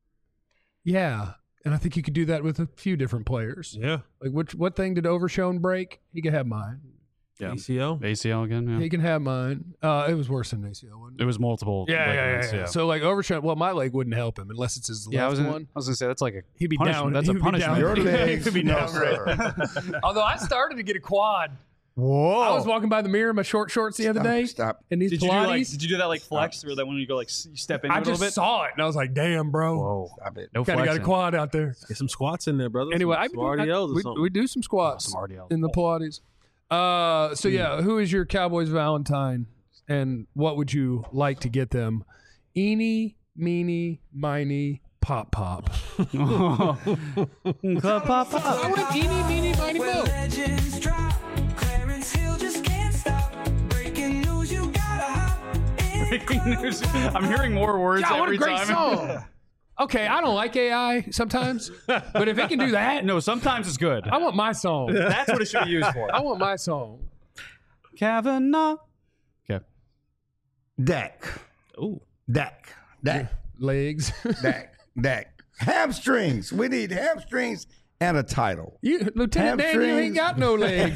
yeah. And I think you could do that with a few different players. Yeah. Like, which what thing did Overshone break? He could have mine. Yeah. A C L? A C L again, yeah. He can have mine. Uh, it was worse than A C L, wasn't it? It was multiple. Yeah, yeah, yeah, ligaments, yeah. So, like, Overshone, well, my leg wouldn't help him unless it's his Yeah, I left was, gonna, one. I was gonna say that's like a He'd be punishment. down. That's He'd a be punishment. down. Your legs, He'd be no, down. sir. Although I started to get a quad. Whoa. I was walking by the mirror in my short shorts the other Stop, day. stop. And these Did you, do Pilates. like, did you do that like flex or that when you go like s- you step into I it a little just bit? saw it and I was like, damn, bro. Whoa. Stop it. No Kind of got a flexing. quad out there. Get some squats in there, brother. Anyway, some, I, some R D Ls or we, something. we do some squats Some R D Ls. in the Pilates. Uh, so, yeah, who is your Cowboys Valentine and what would you like to get them? Eeny, meeny, miny, pop, pop. Pop, pop, pop. I want eeny, meeny, miny, mo. Legends drop. Clarence Hill just can't stop. Breaking news, you gotta hop in. Breaking news. I'm hearing more words God, what every a great time. song. Okay, I don't like A I sometimes, but if it can do that, No, sometimes it's good. I want my song. That's what it should be used for. I want my song. Kavanaugh. Okay. Dak. Ooh. Dak. Dak. Legs. Dak. Dak. Hamstrings. We need hamstrings and a title. You, Lieutenant Dan, you ain't Hamstrings. got no legs.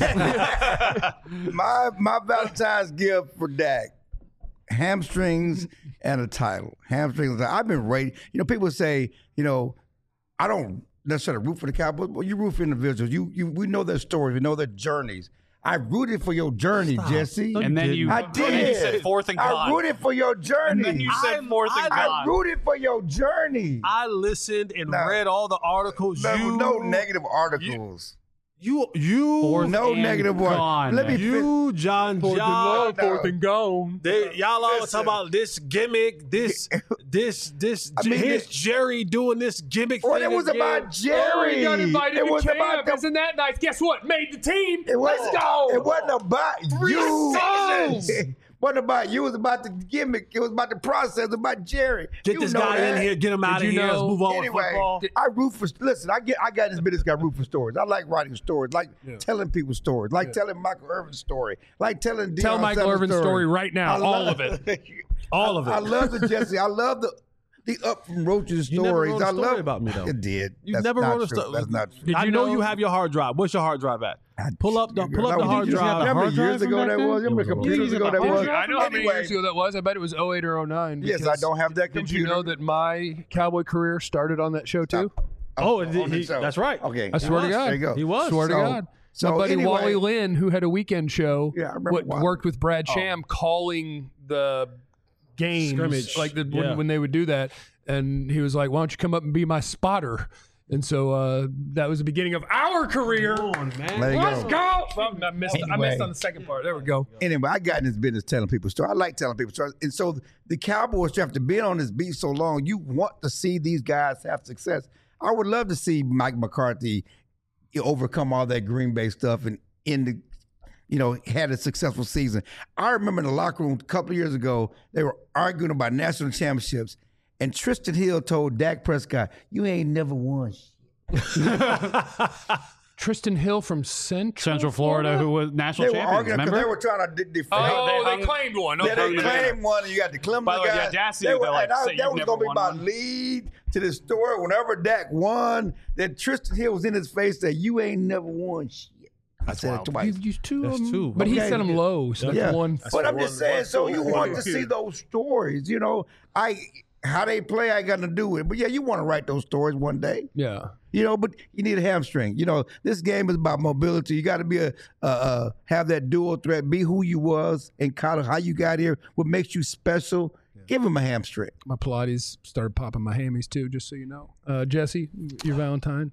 My my Valentine's gift for Dak. Hamstrings and a title. Hamstrings. I've been rating. You know, people say, you know, I don't necessarily root for the Cowboys, but you root for individuals. You you we know their stories, we know their journeys. I rooted for your journey, Jesse. No, And then you, I and then you did. said fourth and I gone. rooted for your journey. And then you said I- fourth and I- I gone. rooted for your journey. I listened and No. read all the articles. No, you, no negative articles. You, you, Fourth no and negative one. gone. Let me you, John, Fourth and John. long, fourth and gone. They, y'all always Listen. talk about this gimmick, this, this, this. I mean, here's it- Jerry doing this gimmick Well, thing it was again. about Jerry. Oh, he got invited it to was camp. about the, Isn't that nice? Guess what? Made the team. it was, Let's go. It wasn't about you. seasons. It wasn't about you. It was about the gimmick. It was about the process. It was about Jerry. Get You this know guy that. in here, get him out of you here. Let's know- move on Anyway, with football. I root for. Listen, I get. I got this business. Got root for stories. I like writing stories. Like telling people stories. Like telling Michael Irvin's story. Like telling Deion Tell Michael Sanders' Irvin's story right now. I All love- of it. All of it. I love the Jesse. I love the the up from roaches You never stories. wrote a I story love about me, though. It did. You That's never not wrote a true. story. That's not true. Did I you know, know- you have your hard drive. What's your hard drive at? Pull up the pull up the That hard was- drive. How many hard years drive ago from that back was? How then? many computers Yeah, ago that hard was? drive. I know how many Anyway, years ago that was. I bet it was oh eight or oh nine. Yes, I because don't have that Did you computer. know that my cowboy career started on that show too? Oh, it- on the he- show. that's right. Okay. I swear to was. God. There you go. He was. Swear to So- God. so My buddy anyway- Wally Lynn, who had a weekend show, Yeah, I remember what- Wally. worked with Brad Sham calling the games, Scrimmage. like the, Yeah. when, when they would do that. And he was like, "Why don't you come up and be my spotter?" And so uh, that was the beginning of our career. Come on, man. There you Let's go. go. Well, I missed. I Anyway. missed on the second part. There we go. Anyway, I got in this business telling people stories. I like telling people stories. And so the Cowboys, after being on this beat so long, you want to see these guys have success. I would love to see Mike McCarthy overcome all that Green Bay stuff and in the, you know, had a successful season. I remember in the locker room a couple of years ago, they were arguing about national championships, and Tristan Hill told Dak Prescott, "You ain't never won shit." Tristan Hill from Central, Central Florida, who was national They were champions. arguing because Remember? they were trying to de- defend. Oh, They they, hung- claimed one. Yeah, Okay. they claimed one, and you got the Clemson By the way, the guys. audacity They to, were- like, and I- say that you've was never going to be won my one. lead to the story. Whenever Dak won, that Tristan Hill was in his face that you ain't never won shit. I said it You twice. used two That's of them, two. but he Okay. set them low. So Yeah, that's one. but I'm one- just saying. one, So two, you one, want two. to see those stories, you know? I how they play, I got to do with it. But yeah, you want to write those stories one day. Yeah. You know, but you need a hamstring. You know, this game is about mobility. You got to be a uh, uh, have that dual threat. Be who you was in college, how you got here, what makes you special. Give him a hamstring. My Pilates started popping my hammies too, just so you know. Uh, Jesse, your Valentine.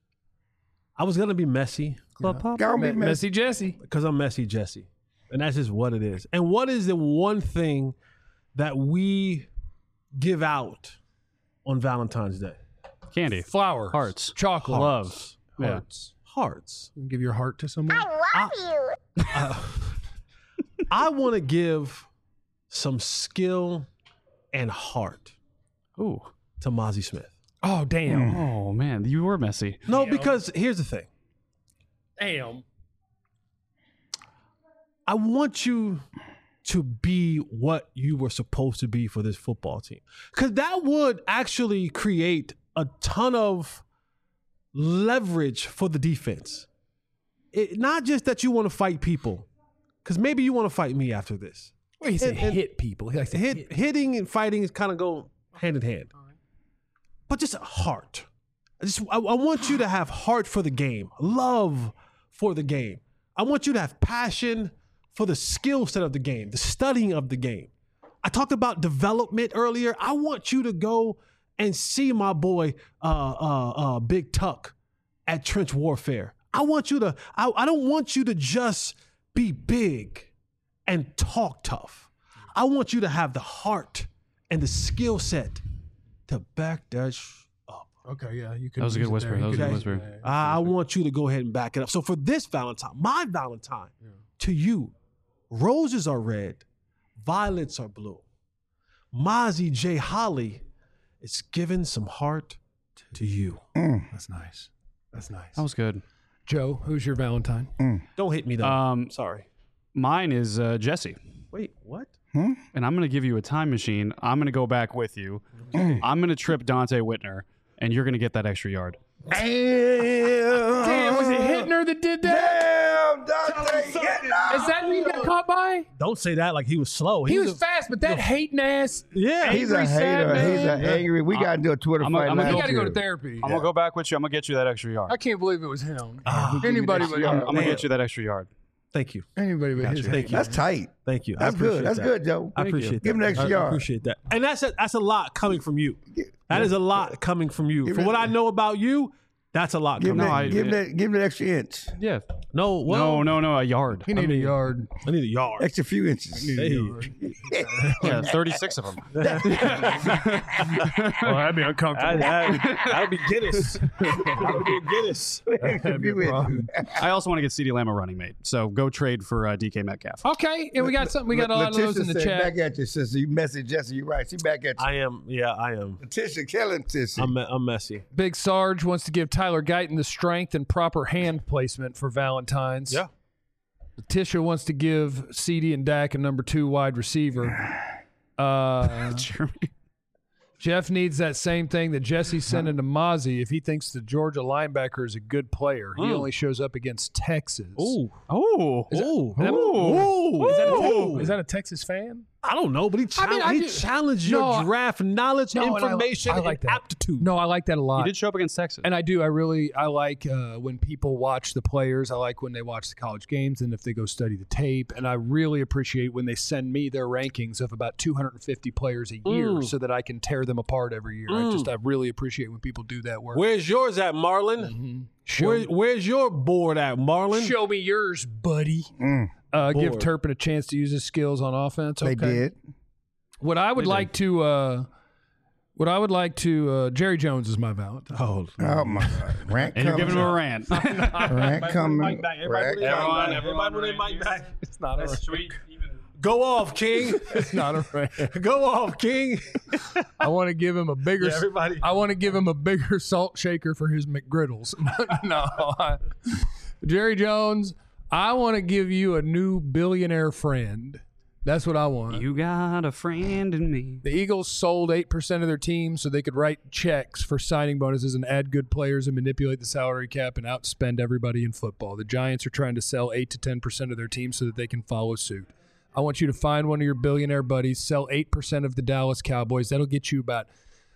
I was gonna be messy. Club pop. Gotta be Me- messy. Messy Jesse. Because I'm messy, Jesse. And that's just what it is. And what is the one thing that we give out on Valentine's Day? Candy, Flowers. hearts, Chocolate. love. Yeah. Hearts. Hearts. You give your heart to someone. I want to give some skill and heart Ooh. to Mozzie Smith. Oh, damn. Oh man, you were messy. No, because here's the thing. Damn. I want you to be what you were supposed to be for this football team. Because that would actually create a ton of leverage for the defense. It, not just that you want to fight people, because maybe you want to fight me after this. Well, he said And- and- hit people. He likes to Hit, hit. hitting and fighting is kind of go hand in hand. But just heart. I just I, I want you to have heart for the game, love for the game. I want you to have passion for the skill set of the game, the studying of the game. I talked about development earlier. I want you to go and see my boy uh, uh, uh, Big Tuck at Trench Warfare. I want you to. I, I don't want you to just be big and talk tough. I want you to have the heart and the skill set to back that sh- up. Okay, yeah. You could That was a use good it whisper. there. That You was a could good use it whisper. there. I, I want you to go ahead and back it up. So for this Valentine, my Valentine, to you, roses are red, violets are blue. Mozzie J. Holly is giving some heart to you. That's nice. That's nice. That was good. Joe, who's your Valentine? Don't hit me though. Um, Sorry. Mine is uh, Jesse. Wait, what? And I'm going to give you a time machine. I'm going to go back with you. I'm going to trip Dante Whitner, and you're going to get that extra yard. Damn, Damn, was it Hittner that did that? Damn, Dante Hittner. Is that who you got caught by? Don't say that like he was slow. He was a- fast, but that hating ass. Yeah. He's a Angry hater. sad He's man. an angry. We got to do a Twitter I'm a- fight I'm a last You got to go year. to therapy. I'm going to go back with you. I'm going to get you that extra yard. I can't believe it was him. Ah, Anybody but yard. him. I'm going to get you that extra yard. Thank you. Anybody but his. Thank you. That's tight. Thank you. I That's appreciate good. That's that. good, Joe. I appreciate that. Give him an extra I yard. appreciate that. And that's a, that's a lot coming from you. That is a lot coming from you. Give For it- what I know about you, that's a lot Give him coming. that, I- give him that, give him that extra inch, Yeah. No, well, no, no, no, a yard. He need a yard. I need a yard. extra few inches. Hey. Yeah, thirty-six of them. Well, that'd be uncomfortable. That, that, that'll be Guinness. That'll be Guinness. Extra few inches. I also want to get CeeDee Lamb a running mate. So go trade for uh, D K Metcalf. Okay, and we got something. We got a lot of those Letitia in the said, chat. Back at you, sister. You messy, Jesse. You're right. She back at you. I am, yeah, I am. Letitia, killing Letitia. I'm, I'm messy. Big Sarge wants to give Tyler Guyton the strength and proper hand placement for Valentine's. Yeah. Letitia wants to give C D and Dak a number two wide receiver. Uh, Jeremy. Jeff needs that same thing that Jesse's sending to Mozzie. If he thinks the Georgia linebacker is a good player, he Mm. only shows up against Texas. Ooh. Oh, Is that- Ooh. that- Ooh. Is that, a, Ooh. is that a Texas fan? I don't know, but he, I mean, chal- I he do- challenged No, your I- draft knowledge, No, and I- information, I like and that. aptitude. No, I like that a he lot. did show up against Texas. And I do. I really, I like uh, when people watch the players. I like when they watch the college games and if they go study the tape. And I really appreciate when they send me their rankings of about two hundred fifty players a year Mm. so that I can tear them apart every year. I Mm. just, I really appreciate when people do that work. Where's yours at, Marlon? Mhm. Show, Where, where's your board at, Marlon? show me yours, buddy. Mm, Uh, give Board. Turpin a chance to use his skills on offense. they Okay. did. What I would They like to, uh, what I would like to, uh, Jerry Jones is my Valentine. Oh, Oh my God, rant and you're coming. giving him a rant. Rant coming. Mike back. Everybody Rant put their coming. mic back. Everybody put their mic back. It's not a Sweet. Go off, King. It's not a rant. Go off, King. I want to give him a bigger. Yeah, everybody. I want to give him a bigger salt shaker for his McGriddles. no, I, Jerry Jones. I want to give you a new billionaire friend. That's what I want. You got a friend in me. The Eagles sold eight percent of their team so they could write checks for signing bonuses and add good players and manipulate the salary cap and outspend everybody in football. The Giants are trying to sell eight to ten percent of their team so that they can follow suit. I want you to find one of your billionaire buddies, sell eight percent of the Dallas Cowboys. That'll get you about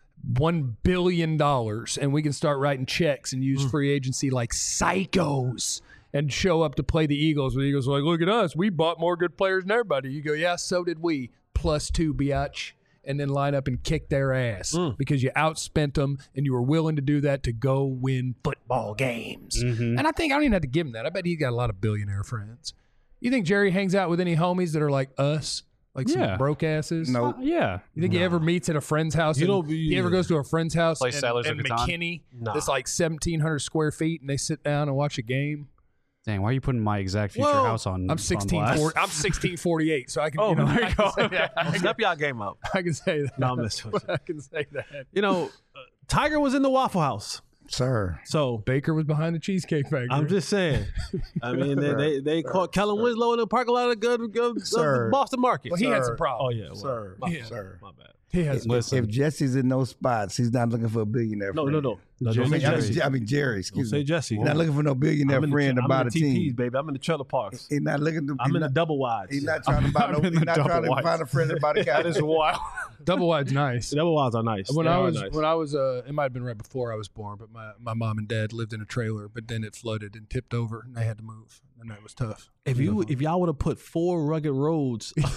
one billion dollars, and we can start writing checks and use free agency like psychos and show up to play the Eagles. The Eagles are like, look at us. We bought more good players than everybody. You go, yeah, so did we. Plus two, biatch. And then line up and kick their ass because you outspent them and you were willing to do that to go win football games. Mm-hmm. And I think I don't even have to give him that. I bet he's got a lot of billionaire friends. You think Jerry hangs out with any homies that are like us? Like some Yeah. broke asses? No. Uh, yeah. You think he ever meets at a friend's house? You and don't- he ever goes to a friend's house Play in, Settlers in of Catan? McKinney Nah. that's like seventeen hundred square feet and they sit down and watch a game? Dang, why are you putting my exact future Whoa. house on? I'm on sixteen blast? forty, I'm sixteen forty-eight, so I can, Oh, you know, there you I can go. say that. I, Step y'all game up. can, I can say that. No, I'm messing with you. I can say that. You know, uh, Tiger was in the Waffle House. Sir. So Baker was behind the Cheesecake Factory. I'm just saying. I mean, they they, they caught Kellen Winslow in the parking lot of, good, good, of Sir. the Boston market. well, he had Sir. some Oh, problems. yeah. Well, Sir. My, Yeah. Sir. my bad. He has Listen, If Jesse's in those spots, he's not looking for a billionaire No, friend. no, no. no I don't mean, say I mean, Jesse. Je- I mean Jerry, Don't excuse say me. Jesse. He's not looking for no billionaire I'm in the, friend to I'm buy in the the T Ps, team. baby. I'm in the trailer parks. He's not looking to. I'm he's in not, the double wides. He's not trying to buy no. I'm in He's the not double trying to wides. find a friend to buy the That is Cowboys. wild. double wide's nice. The double wides are nice. When They I are was nice. when I was uh, it might have been right before I was born, but my, my mom and dad lived in a trailer, but then it flooded and tipped over, and they had to move, and that was tough. if you if y'all would have put four rugged roads, yeah,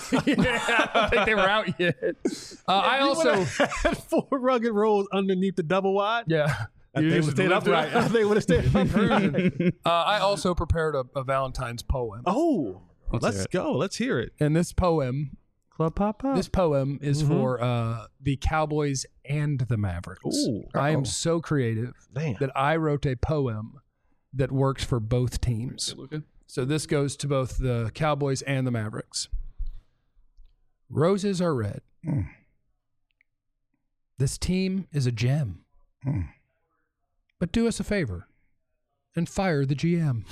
I don't think they were out yet. Uh, I also, had four rugged roads underneath the double wide, yeah, I think You would just have stayed lived upright. it. I think would have stayed upright. uh, I also prepared a, a Valentine's poem, Oh, Let's let's, hear it. go. Let's hear it. and this poem, Club Pop Pop. this poem is Mhm. for uh, the Cowboys and the Mavericks. Ooh. I am Uh-oh. so creative Damn. that I wrote a poem that works for both teams. So this goes to both the Cowboys and the Mavericks. Roses are red. Mm. This team is a gem. Mm. But do us a favor and fire the G M.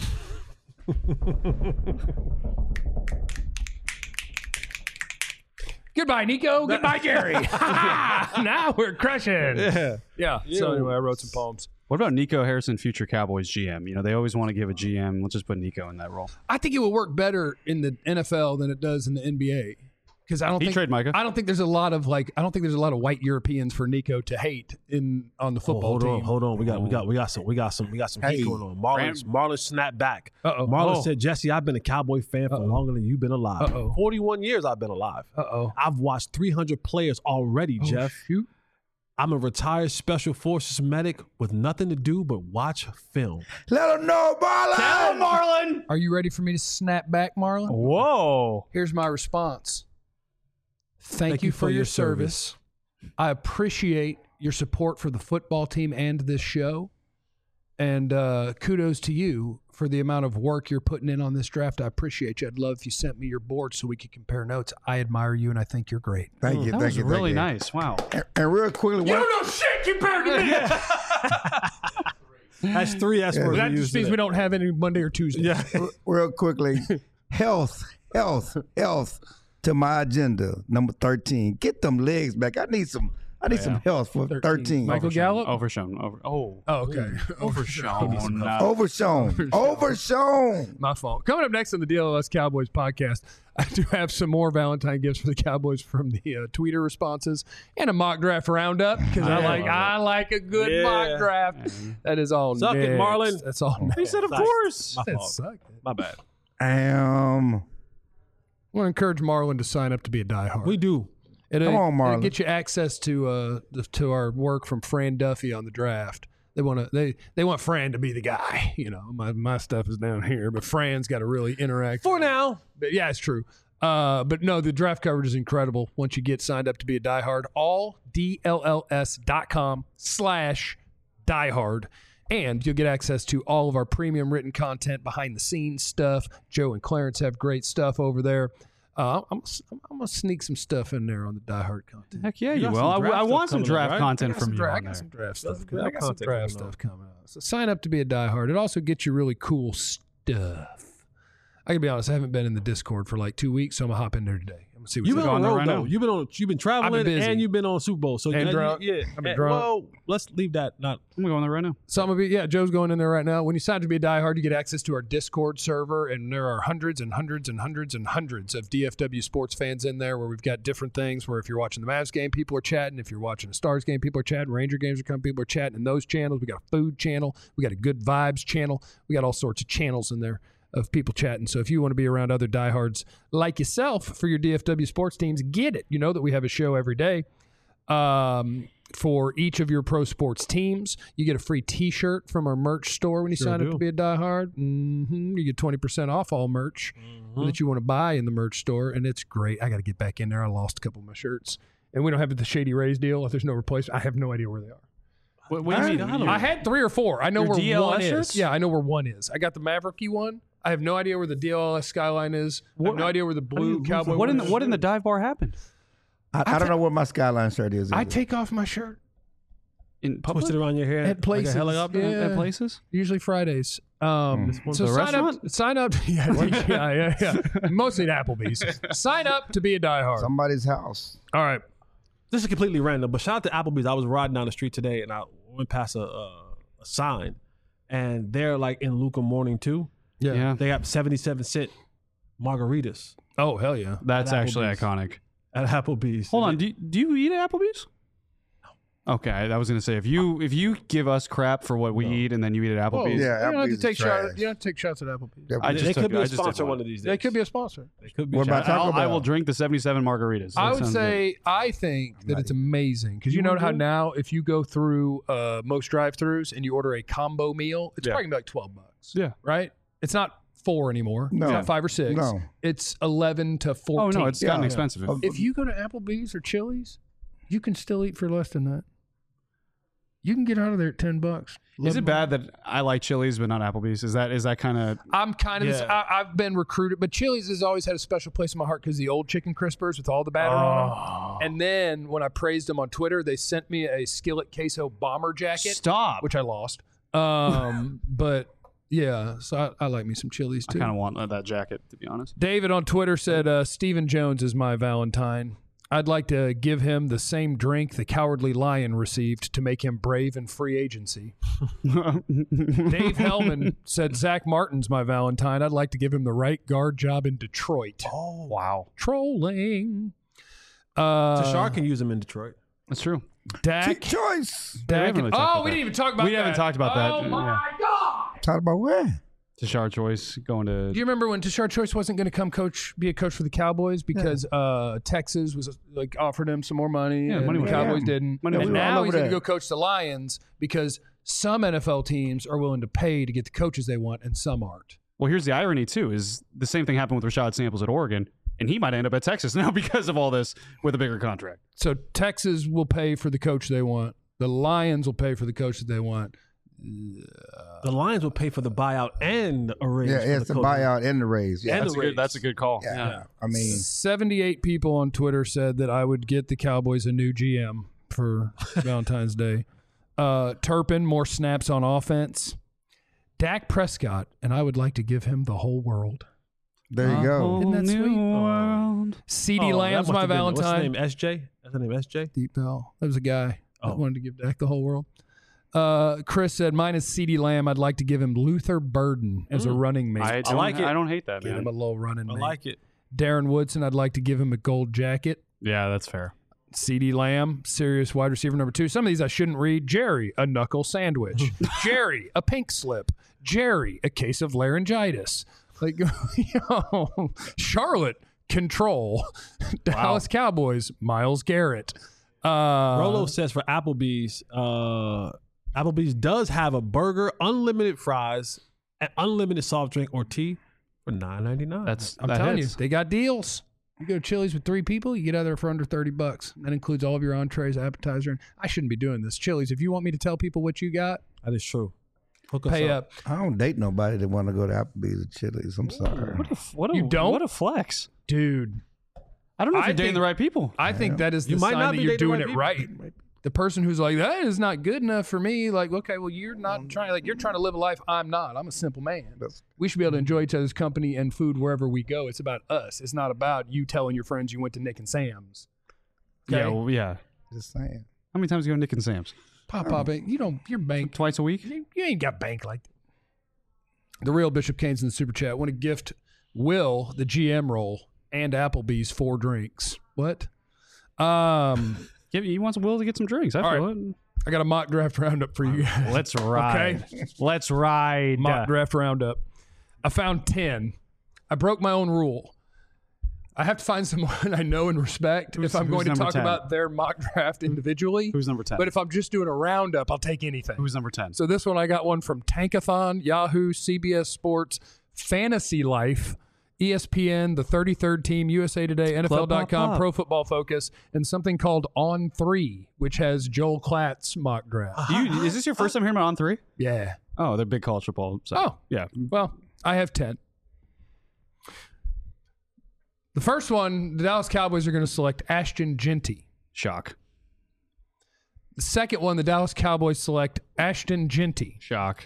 Goodbye, Nico. Goodbye, Jerry. Now we're crushing. Yeah. Yeah. So anyway, I wrote some poems. What about Nico Harrison, future Cowboys G M? You know, they always want to give a G M. Let's just put Nico in that role. I think it would work better in the N F L than it does in the N B A. Because I don't He think trade Micah. I don't think there's a lot of like I don't think there's a lot of white Europeans for Nico to hate in on the Oh, football hold team. on, hold on. We got, we got, we got some, we got some, we got some heat Hey. going on. Marlon, Marlon snapped back. Uh-oh. Marlon Oh. said, "Jesse, I've been a Cowboy fan for Uh-oh. longer than you've been alive. Uh-oh. Forty-one years I've been alive. Uh oh. I've watched three hundred players already, Jeff. Shoot. I'm a retired Special Forces medic with nothing to do but watch film. Let him know, Marlon. Marlon. Are you ready for me to snap back, Marlon? Whoa. Here's my response. Thank, you, for, your service. I appreciate your support for the football team and this show. And uh, kudos to you for the amount of work you're putting in on this draft. I appreciate you. I'd love if you sent me your board so we could compare notes. I admire you and I think you're great. Thank you. That thank was you. really thank you. nice. Wow. And, and real quickly, You one, don't know shit compared to me. That's three S words. That we just used means today. we don't have any Monday or Tuesday. Yeah. real quickly, health, health, health to my agenda. Number thirteen. Get them legs back. I need some. I need some health for thirteen. Michael Gallup? Overshown. Over. Oh. Oh, okay. Overshown. Uh, Overshown. Overshown. My fault. Coming up next on the D L L S Cowboys podcast, I do have some more Valentine gifts for the Cowboys from the uh, tweeter responses and a mock draft roundup because I, I like love I like a good Yeah. mock draft. That is all. Suck it, next. Marlon. That's all. he Next. said, of Nice. course. My That fault. sucked. My bad. Um, I want to encourage Marlon to sign up to be a diehard. We do. It'll, Come on, it'll Marlon. get you access to uh the, to our work from Fran Duffy on the draft. They want to they they want Fran to be the guy. You know, my my stuff is down here, but Fran's got to really interact For now. But yeah, it's true. Uh, but no, the draft coverage is incredible once you get signed up to be a diehard. All D L L S dot com slash diehard. And you'll get access to all of our premium written content, behind the scenes stuff. Joe and Clarence have great stuff over there. Uh, I'm, I'm, I'm going to sneak some stuff in there on the diehard content. Heck yeah, You you, got will. some I, draft I stuff want some coming up, draft right? I content got from some you. dra- I on got there. some draft Got stuff. some coming- I draft got some content draft coming up. stuff coming out. So sign up to be a diehard. It also gets you really cool stuff. I can be honest, I haven't been in the Discord for like two weeks, so I'm gonna hop in there today. I'm gonna see what's You've been on on the there road right though. now. You've been on. You've been traveling busy. and you've been on Super Bowl. So And yeah, drunk. yeah. I've been And- drunk. Well, let's leave that. Not. I'm going there right now. Some of you, yeah, Joe's going in there right now. When you sign up to be a diehard, you get access to our Discord server, and there are hundreds and hundreds and hundreds and hundreds of D F W sports fans in there where we've got different things where if you're watching the Mavs game, people are chatting. If you're watching a Stars game, people are chatting. Ranger games are coming, people are chatting in those channels. We got a food channel. We got a good vibes channel. We got all sorts of channels in there of people chatting. So if you want to be around other diehards like yourself for your D F W sports teams, get it. You know that we have a show every day. Um, for each of your pro sports teams, you get a free T-shirt from our merch store when you Sure sign up do. to be a diehard. Mm-hmm. You get twenty percent off all merch Mm-hmm. that you want to buy in the merch store, and it's great. I got to get back in there. I lost a couple of my shirts, and we don't have the Shady Rays deal. If there's no replacement, I have no idea where they are. What, what do you mean? I had three or four. I know Your where D L S one shirts? is. Yeah, I know where one is. I got the Mavericky one. I have no idea where the D L L S skyline is. I have no idea where the blue cowboy. What in the one is. what in the dive bar happened? I, I don't know what my skyline shirt is. I either. take off my shirt In public? Twisted around your hair. at places. Like a helicopter. Yeah. At places? Usually Fridays. Um, one so the sign restaurant? up. Sign up. Yeah, yeah, yeah, yeah. Mostly at Applebee's. Sign up to be a diehard. Somebody's house. All right. This is completely random, but shout out to Applebee's. I was riding down the street today and I went past a, a, a sign, and they're like in Luca Morning too. Yeah. Yeah. They got seventy-seven cent margaritas Oh hell yeah. That's At actually Applebee's. iconic. at Applebee's. Hold on. Do you, do you eat at Applebee's? No. Okay, I was gonna say if you if you give us crap for what we eat and then you eat at Applebee's, Yeah, you don't have to Applebee's take is trash. shots. You don't have to take shots at Applebee's. Yeah, I They, just they took could be it. I a just did sponsor one. one of these days. They could be a sponsor. They could be. What about Shout out- Taco I'll, I Bell? will drink the seventy-seven margaritas. I That would sounds say I think that it's amazing because you know how now if you go through uh, most drive-throughs and you order a combo meal, it's Yeah. probably gonna be like twelve bucks. Yeah. Right. It's not four anymore. No. It's not five or six. No. It's eleven to good. Oh fourteen. no, it's gotten Yeah. expensive. Oh, If you go to Applebee's or Chili's, you can still eat for less than that. You can get out of there at ten bucks. Is it bad that I like Chili's but not Applebee's? Is that is that kind of I'm kind of. Yeah. I, I've been recruited, but Chili's has always had a special place in my heart because the old chicken crispers with all the batter on Oh. them. And then when I praised them on Twitter, they sent me a skillet queso bomber jacket, stop? which I lost. Um, but yeah, so I, I like me some Chili's I too. kind of want uh, that jacket to be honest. David on Twitter said, uh, Stephen Jones is my Valentine. I'd like to give him the same drink the Cowardly Lion received to make him brave in free agency. Dave Hellman said, Zach Martin's my Valentine. I'd like to give him the right guard job in Detroit. Oh wow, Trolling. Uh, Tashar can use them in Detroit. that's true. Dak. choice. Dak haven't really talked oh, about we that. didn't even talk about We that. haven't talked about that. Oh, my Yeah. God. Talk about where? Tashard Choice going to. Do you remember when Tashard Choice wasn't going to come coach, be a coach for the Cowboys because uh, Texas was like offered him some more money, Yeah, and money the was- Cowboys yeah. didn't. Money and was all now over he's going to that. go coach the Lions because some N F L teams are willing to pay to get the coaches they want, and some aren't. Well, here's the irony too: is the same thing happened with Rashad Samples at Oregon, and he might end up at Texas now because of all this with a bigger contract. So Texas will pay for the coach they want. The Lions will pay for the coach that they want. The Lions will pay for the buyout and a raise. Yeah, for it's the the coach. buyout and the raise. Yeah, And That's a the good. raise. That's a good call. yeah. Yeah. I mean, seventy-eight people on Twitter said that I would get the Cowboys a new G M for Valentine's Day. Uh, Turpin, more snaps on offense. Dak Prescott, and I would like to give him the whole world. there you go. Isn't that sweet? World. CeeDee Oh, Lamb's that must my have been- What's his Valentine. name? S J? What's her name? S J? Deep Bell. That was a guy Oh. that wanted to give Dak the whole world. Uh, Chris said, mine is CeeDee Lamb. I'd like to give him Luther Burden as a running mate. I, don't, like it. I don't hate that, Give him man. a little running I mate. like it. Darren Woodson, I'd like to give him a gold jacket. Yeah, that's fair. CeeDee Lamb, serious wide receiver number two. Some of these I shouldn't read. Jerry, a knuckle sandwich. Jerry, a pink slip. Jerry, a case of laryngitis. Like, you know, Charlotte, control. Dallas Cowboys, Myles Garrett. Uh, Rolo says for Applebee's, uh, Applebee's does have a burger, unlimited fries, and unlimited soft drink or tea for nine ninety-nine. That's I'm that telling hits. you, they got deals. You go to Chili's with three people, you get out of there for under thirty bucks. That includes all of your entrees, appetizer. And I shouldn't be doing this. Chili's, if you want me to tell people what you got, that is true. Hook us pay up. I don't date nobody that want to go to Applebee's or Chili's. I'm sorry. What a, what a, You don't? What a flex. Dude. I don't know if I you're dating think- the right people. I think that is the You might sign not that be you're dating the doing right it people. right. The person who's like, that is not good enough for me. Like, okay, well, you're not trying. Like, you're trying to live a life. I'm not. I'm a simple man. That's- We should be able to enjoy each other's company and food wherever we go. It's about us. It's not about you telling your friends you went to Nick and Sam's. Okay? Yeah, well, yeah. Just saying. How many times do you go to Nick and Sam's? Pop, pop, it. You don't. You're bank. Twice a week? You, you ain't got bank like that. The real Bishop Kane's in the super chat. Want to gift Will the G M role and Applebee's four drinks. What? Um, Yeah, he wants Will to get some drinks. I All feel right. it. I got a mock draft roundup for you guys. Let's ride. Let's ride. Mock draft roundup. I found ten. I broke my own rule. I have to find someone I know and respect Who's- if I'm who's going to number talk ten? about their mock draft individually. Who's number ten? But if I'm just doing a roundup, I'll take anything. Who's number ten? So this one, I got one from Tankathon, Yahoo, C B S Sports, Fantasy Life, E S P N, the thirty-third Team, U S A Today, N F L dot com, Pop. Pro Football Focus, and something called On Three, which has Joel Klatt's mock draft. Do you, is this your first time hearing about On Three? Yeah. Oh, they're big college football. So, Oh. yeah. Well, I have ten. The first one, the Dallas Cowboys are going to select Ashton Genty. Shock. The second one, the Dallas Cowboys select Ashton Genty. Shock.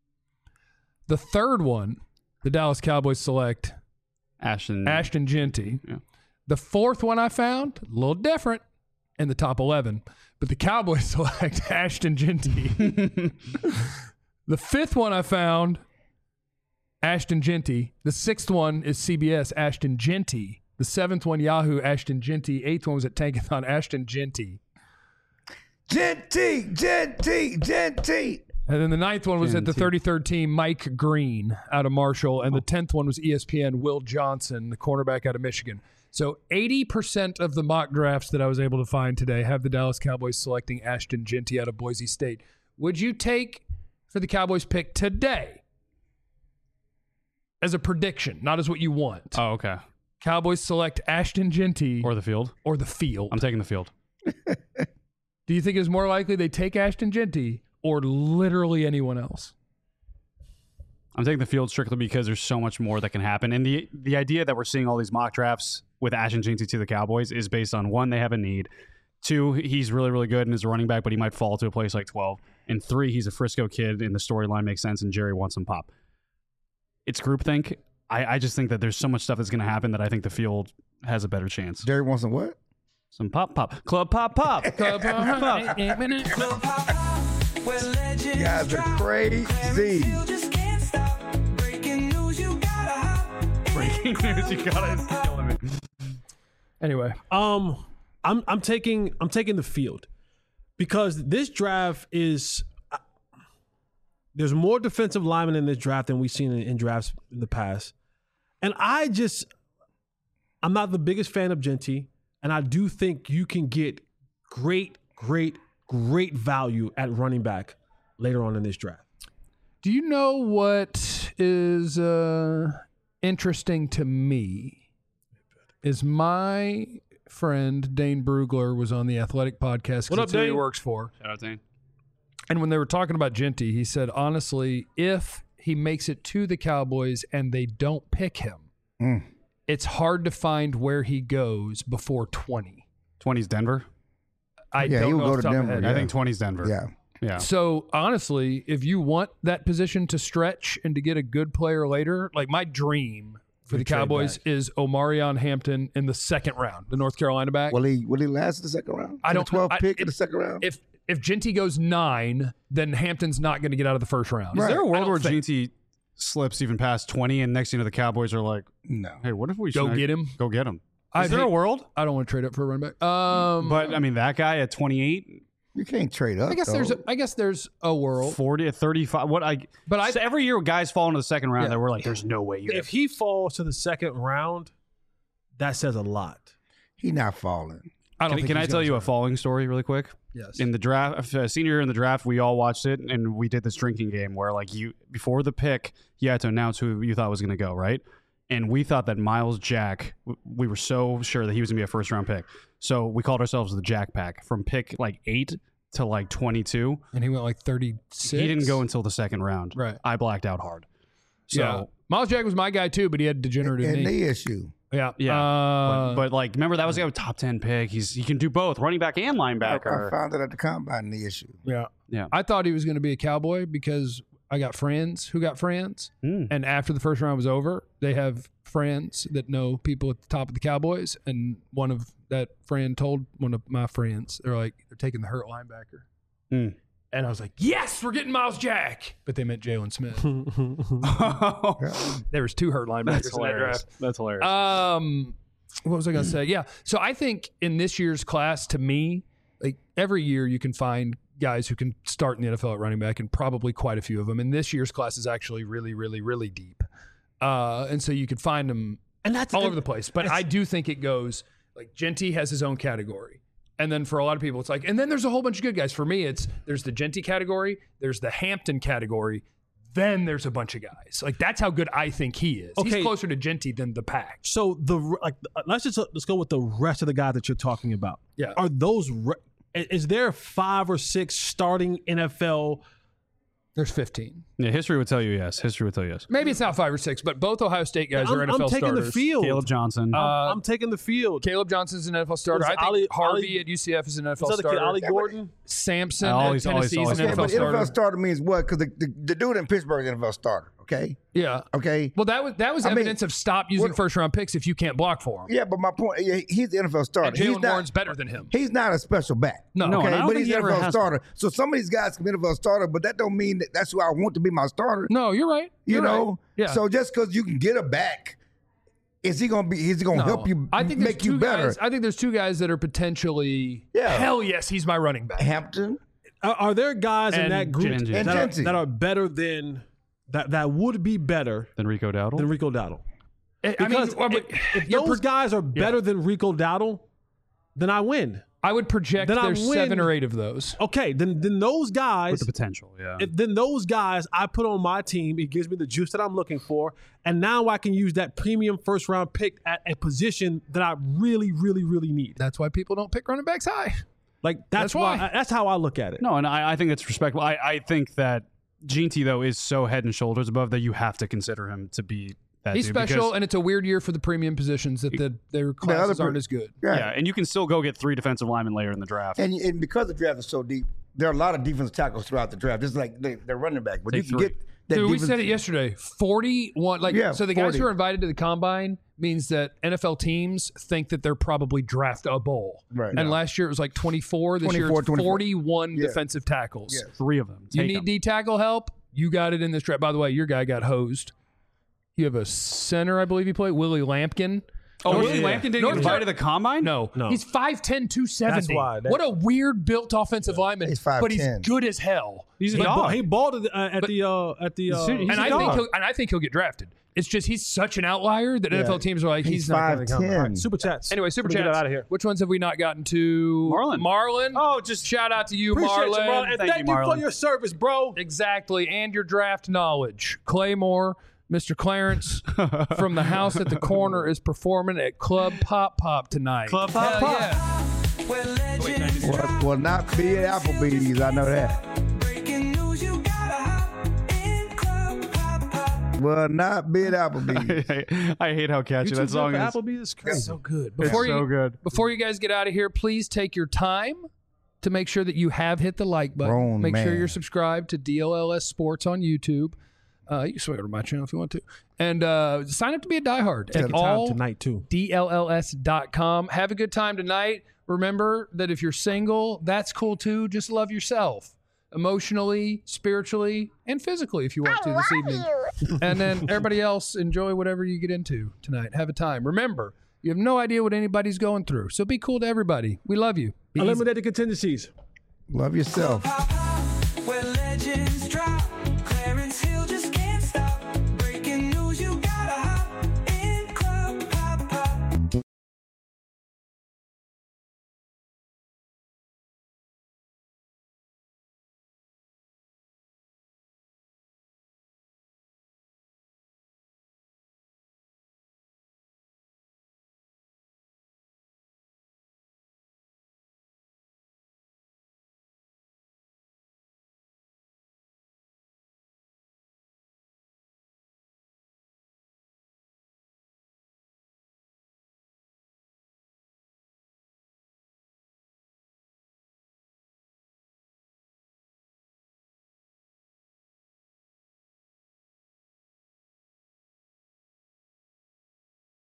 The third one, the Dallas Cowboys select Ashton. Ashton Genty. Yeah. The fourth one I found, a little different in the top eleven, but the Cowboys select Ashton Genty. The fifth one I found, Ashton Genty. The sixth one is C B S, Ashton Genty. The seventh one, Yahoo, Ashton Genty. Eighth one was at Tankathon, Ashton Genty. Genty, Genty, Genty. And then the ninth one was at the Genty. thirty-third Team, Mike Green out of Marshall. And the tenth one was E S P N, Will Johnson, the cornerback out of Michigan. So eighty percent of the mock drafts that I was able to find today have the Dallas Cowboys selecting Ashton Genty out of Boise State. Would you take for the Cowboys pick today as a prediction, not as what you want? Oh, okay. Cowboys select Ashton Genty Or the field. or the field. I'm taking the field. Do you think it's more likely they take Ashton Genty or literally anyone else? I'm taking the field strictly because there's so much more that can happen. And the the idea that we're seeing all these mock drafts with Ashton Genty to the Cowboys is based on, one, they have a need. Two, he's really, really good and is a running back, but he might fall to a place like twelve. And three, he's a Frisco kid and the storyline makes sense and Jerry wants some pop. It's groupthink. I, I just think that there's so much stuff that's going to happen that I think the field has a better chance. Jerry wants some what? Some pop, pop. Club pop, pop. Club pop, pop. Club pop pop, where legends You guys are drop. crazy. Clarence Hill just can't stop. Breaking news, you gotta hop. Breaking news, you got it. It's killing me. Anyway, Um, I'm I'm taking I'm taking the field because this draft is uh, there's more defensive linemen in this draft than we've seen in, in drafts in the past, and I just I'm not the biggest fan of Genty, and I do think you can get great, great, great value at running back later on in this draft. do you know what is uh, interesting to me? Is my friend Dane Brugler was on the Athletic podcast. 'cause What up, that's who he Dane? works for. Shout out, Dane. And when they were talking about Genty, he said, honestly, if he makes it to the Cowboys and they don't pick him, Mm. it's hard to find where he goes before twenty. twenty's Denver. I Yeah, don't he'll know go off to the top of my Denver, head. yeah. I think twenty's Denver. Yeah. Yeah. So honestly, if you want that position to stretch and to get a good player later, like my dream for the trade Cowboys back. is Omarion Hampton in the second round, the North Carolina back. Will he will he last the second round? I To don't the twelfth I- pick it- in the second round. if if Ginty goes nine, then Hampton's not going to get out of the first round. Is there a I world don't where think- Ginty slips even past twenty, and next thing you know, the Cowboys are like, no. "Hey, what if we Go should get him? Go get him." Is I there think- a world? I don't want to trade up for a running back. Um, But I mean, that guy at twenty-eight, You can't trade up. I guess though. there's a, I guess there's a world. forty, thirty-five. What I? But I- so every year guys fall into the second round. Yeah. That we're like, "There's no way you." If he falls to the second round, that says a lot. He not falling. I don't Can, think can I he's tell gonna you a start. falling story really quick? Yes. In the draft, uh, senior year in the draft, we all watched it, and we did this drinking game where, like, you before the pick, you had to announce who you thought was going to go, right? And we thought that Miles Jack, w- we were so sure that he was going to be a first round pick. So we called ourselves the Jack Pack from pick like eight to like twenty-two. and he went like thirty-six. He didn't go until the second round. Right. I blacked out hard. So, yeah. Miles Jack was my guy too, but he had degenerative And knee. the issue. Yeah. yeah. Uh, but, but, like, remember, that was a top ten pick. He's He can do both, running back and I, I linebacker. found it at the combine. The issue. yeah. Yeah. I thought he was going to be a Cowboy because I got friends who got friends. Mm. And after the first round was over, they have friends that know people at the top of the Cowboys. And one of that friend told one of my friends, they're like, they're taking the hurt linebacker. Mm. And I was like, yes, we're getting Miles Jack. But they meant Jalen Smith. There was two hurt linebackers That's in that hilarious. draft. That's hilarious. Um, what was I going to say? Yeah. So I think in this year's class, to me, like every year you can find guys who can start in the N F L at running back, and probably quite a few of them. And this year's class is actually really, really, really deep. Uh, and so you could find them And that's all over the place. But I do think it goes like Genty has his own category. And then for a lot of people, it's like, and then there's a whole bunch of good guys. For me, it's there's the Genty category, there's the Hampton category, then there's a bunch of guys. Like that's how good I think he is. Okay. He's closer to Genty than the pack. So the like, let's just let's go with the rest of the guys that you're talking about. Yeah. Are those? Re- is there five or six starting N F L? There's fifteen. yeah, history would tell you yes. History would tell you yes. Maybe it's not five or six, but both Ohio State guys I'm, are N F L I'm taking starters. the field. Caleb Johnson. Uh, I'm, I'm taking the field. Caleb Johnson's an N F L starter. Was I think Ali- Harvey Ali- at U C F is an N F L Is that the kid, starter. Ollie Gordon? Samson Uh, always- at Tennessee always- is an Yeah, N F L but N F L starter. starter means what? Because the, the, the dude in Pittsburgh is an N F L starter. Okay. Yeah. Okay. Well, that was that was I mean, evidence of stop using what- first round picks if you can't block for him. Yeah, but my point, yeah, he's the N F L starter. And he's Jalen not, Warren's better than him. He's not a special back. No. No, okay, and I don't but think he's he an ever N F L has- starter. So some of these guys can be N F L starter, but that don't mean that that's who I want to be my starter. No, you're right. You You're know. right. Yeah. So just because you can get a back, is he gonna be? Is he gonna No. help you? I think there's make you two better. Guys, I think there's two guys that are potentially. Yeah. Hell yes, he's my running back. Hampton. Are, are there guys in And that group Genty. that, And are, Genty. that are better than that? That would be better Then Rico Dowdle. than Rico Dowdle. I I mean, Because well, but if, if you're those pro- guys are better than Rico Dowdle, then I win. I would project then I there's win. seven or eight of those. Okay, then then those guys, with the potential, yeah. if, then those guys I put on my team. It gives me the juice that I'm looking for, and now I can use that premium first round pick at a position that I really, really, really need. That's why people don't pick running backs high. Like that's, That's why. why. That's how I look at it. no, and I, I think it's respectable. I, I think that Genty, though, is so head and shoulders above that you have to consider him to be that He's dude special, because- and it's a weird year for the premium positions that the, their classes other- aren't as good. Yeah. yeah, and you can still go get three defensive linemen later in the draft. And, and because the draft is so deep, there are a lot of defensive tackles throughout the draft. Just like they, they're running back, but Take you can three. get that. Dude, we defense- said it yesterday. forty-one Like, Yeah, so the guys forty. who are invited to the combine means that N F L teams think that they're probably draftable. Right. And Yeah. last year it was like twenty-four. This year twenty-four, it's twenty-four. forty-one Yeah. defensive tackles. Yeah. Three of them. You Take need 'em. D tackle help? You got it in this draft. By the way, your guy got hosed. You have a center, I believe you play, Willie Lampkin. Oh, North- Willie Lampkin didn't North get Car- invited to the combine? No, No. he's five ten, two seventy. That's why. That- what a weird built offensive lineman, He's but he's five ten. good as hell. He's a He, dog. ball, he balled at, uh, at But- the uh, at the. Uh, He's and a I dog. think he'll, and I think he'll get drafted. It's just he's such an outlier that N F L teams are like he's, He's not five going to come. ten. All right. super chats. Anyway, super Get chats. out of here. Which ones have we not gotten to? Marlon. Marlon. Oh, just shout out to you, Appreciate Marlon. you, bro. And Thank thank, you, you, for Marlon. your service, bro. Exactly, and your draft knowledge. Claymore, Mister Clarence from the house at the corner is performing at Club Pop Pop tonight. Club Pop Hell Pop. yeah. Where legends Well, well, not be at Applebee's. I know that. breaking news, you gotta hop in Club Pop Pop. Well, not be at Applebee's. I hate how catchy You that too song good is. for Applebee's? It's crazy. So good. It's Before so you, good. Before you guys get out of here, please take your time to make sure that you have hit the like button. Grown make sure man. you're subscribed to D L L S Sports on YouTube. Uh, you can swing over to my channel if you want to. And uh, sign up to be a diehard Take at the time all tonight too. D L L S dot com. Have a good time tonight. Remember that if you're single, that's cool too. Just love yourself emotionally, spiritually, and physically if you want to this evening. And then everybody else, enjoy whatever you get into tonight. Have a time. Remember, you have no idea what anybody's going through. So be cool to everybody. We love you. Be easy. Eliminated contingencies. Love yourself.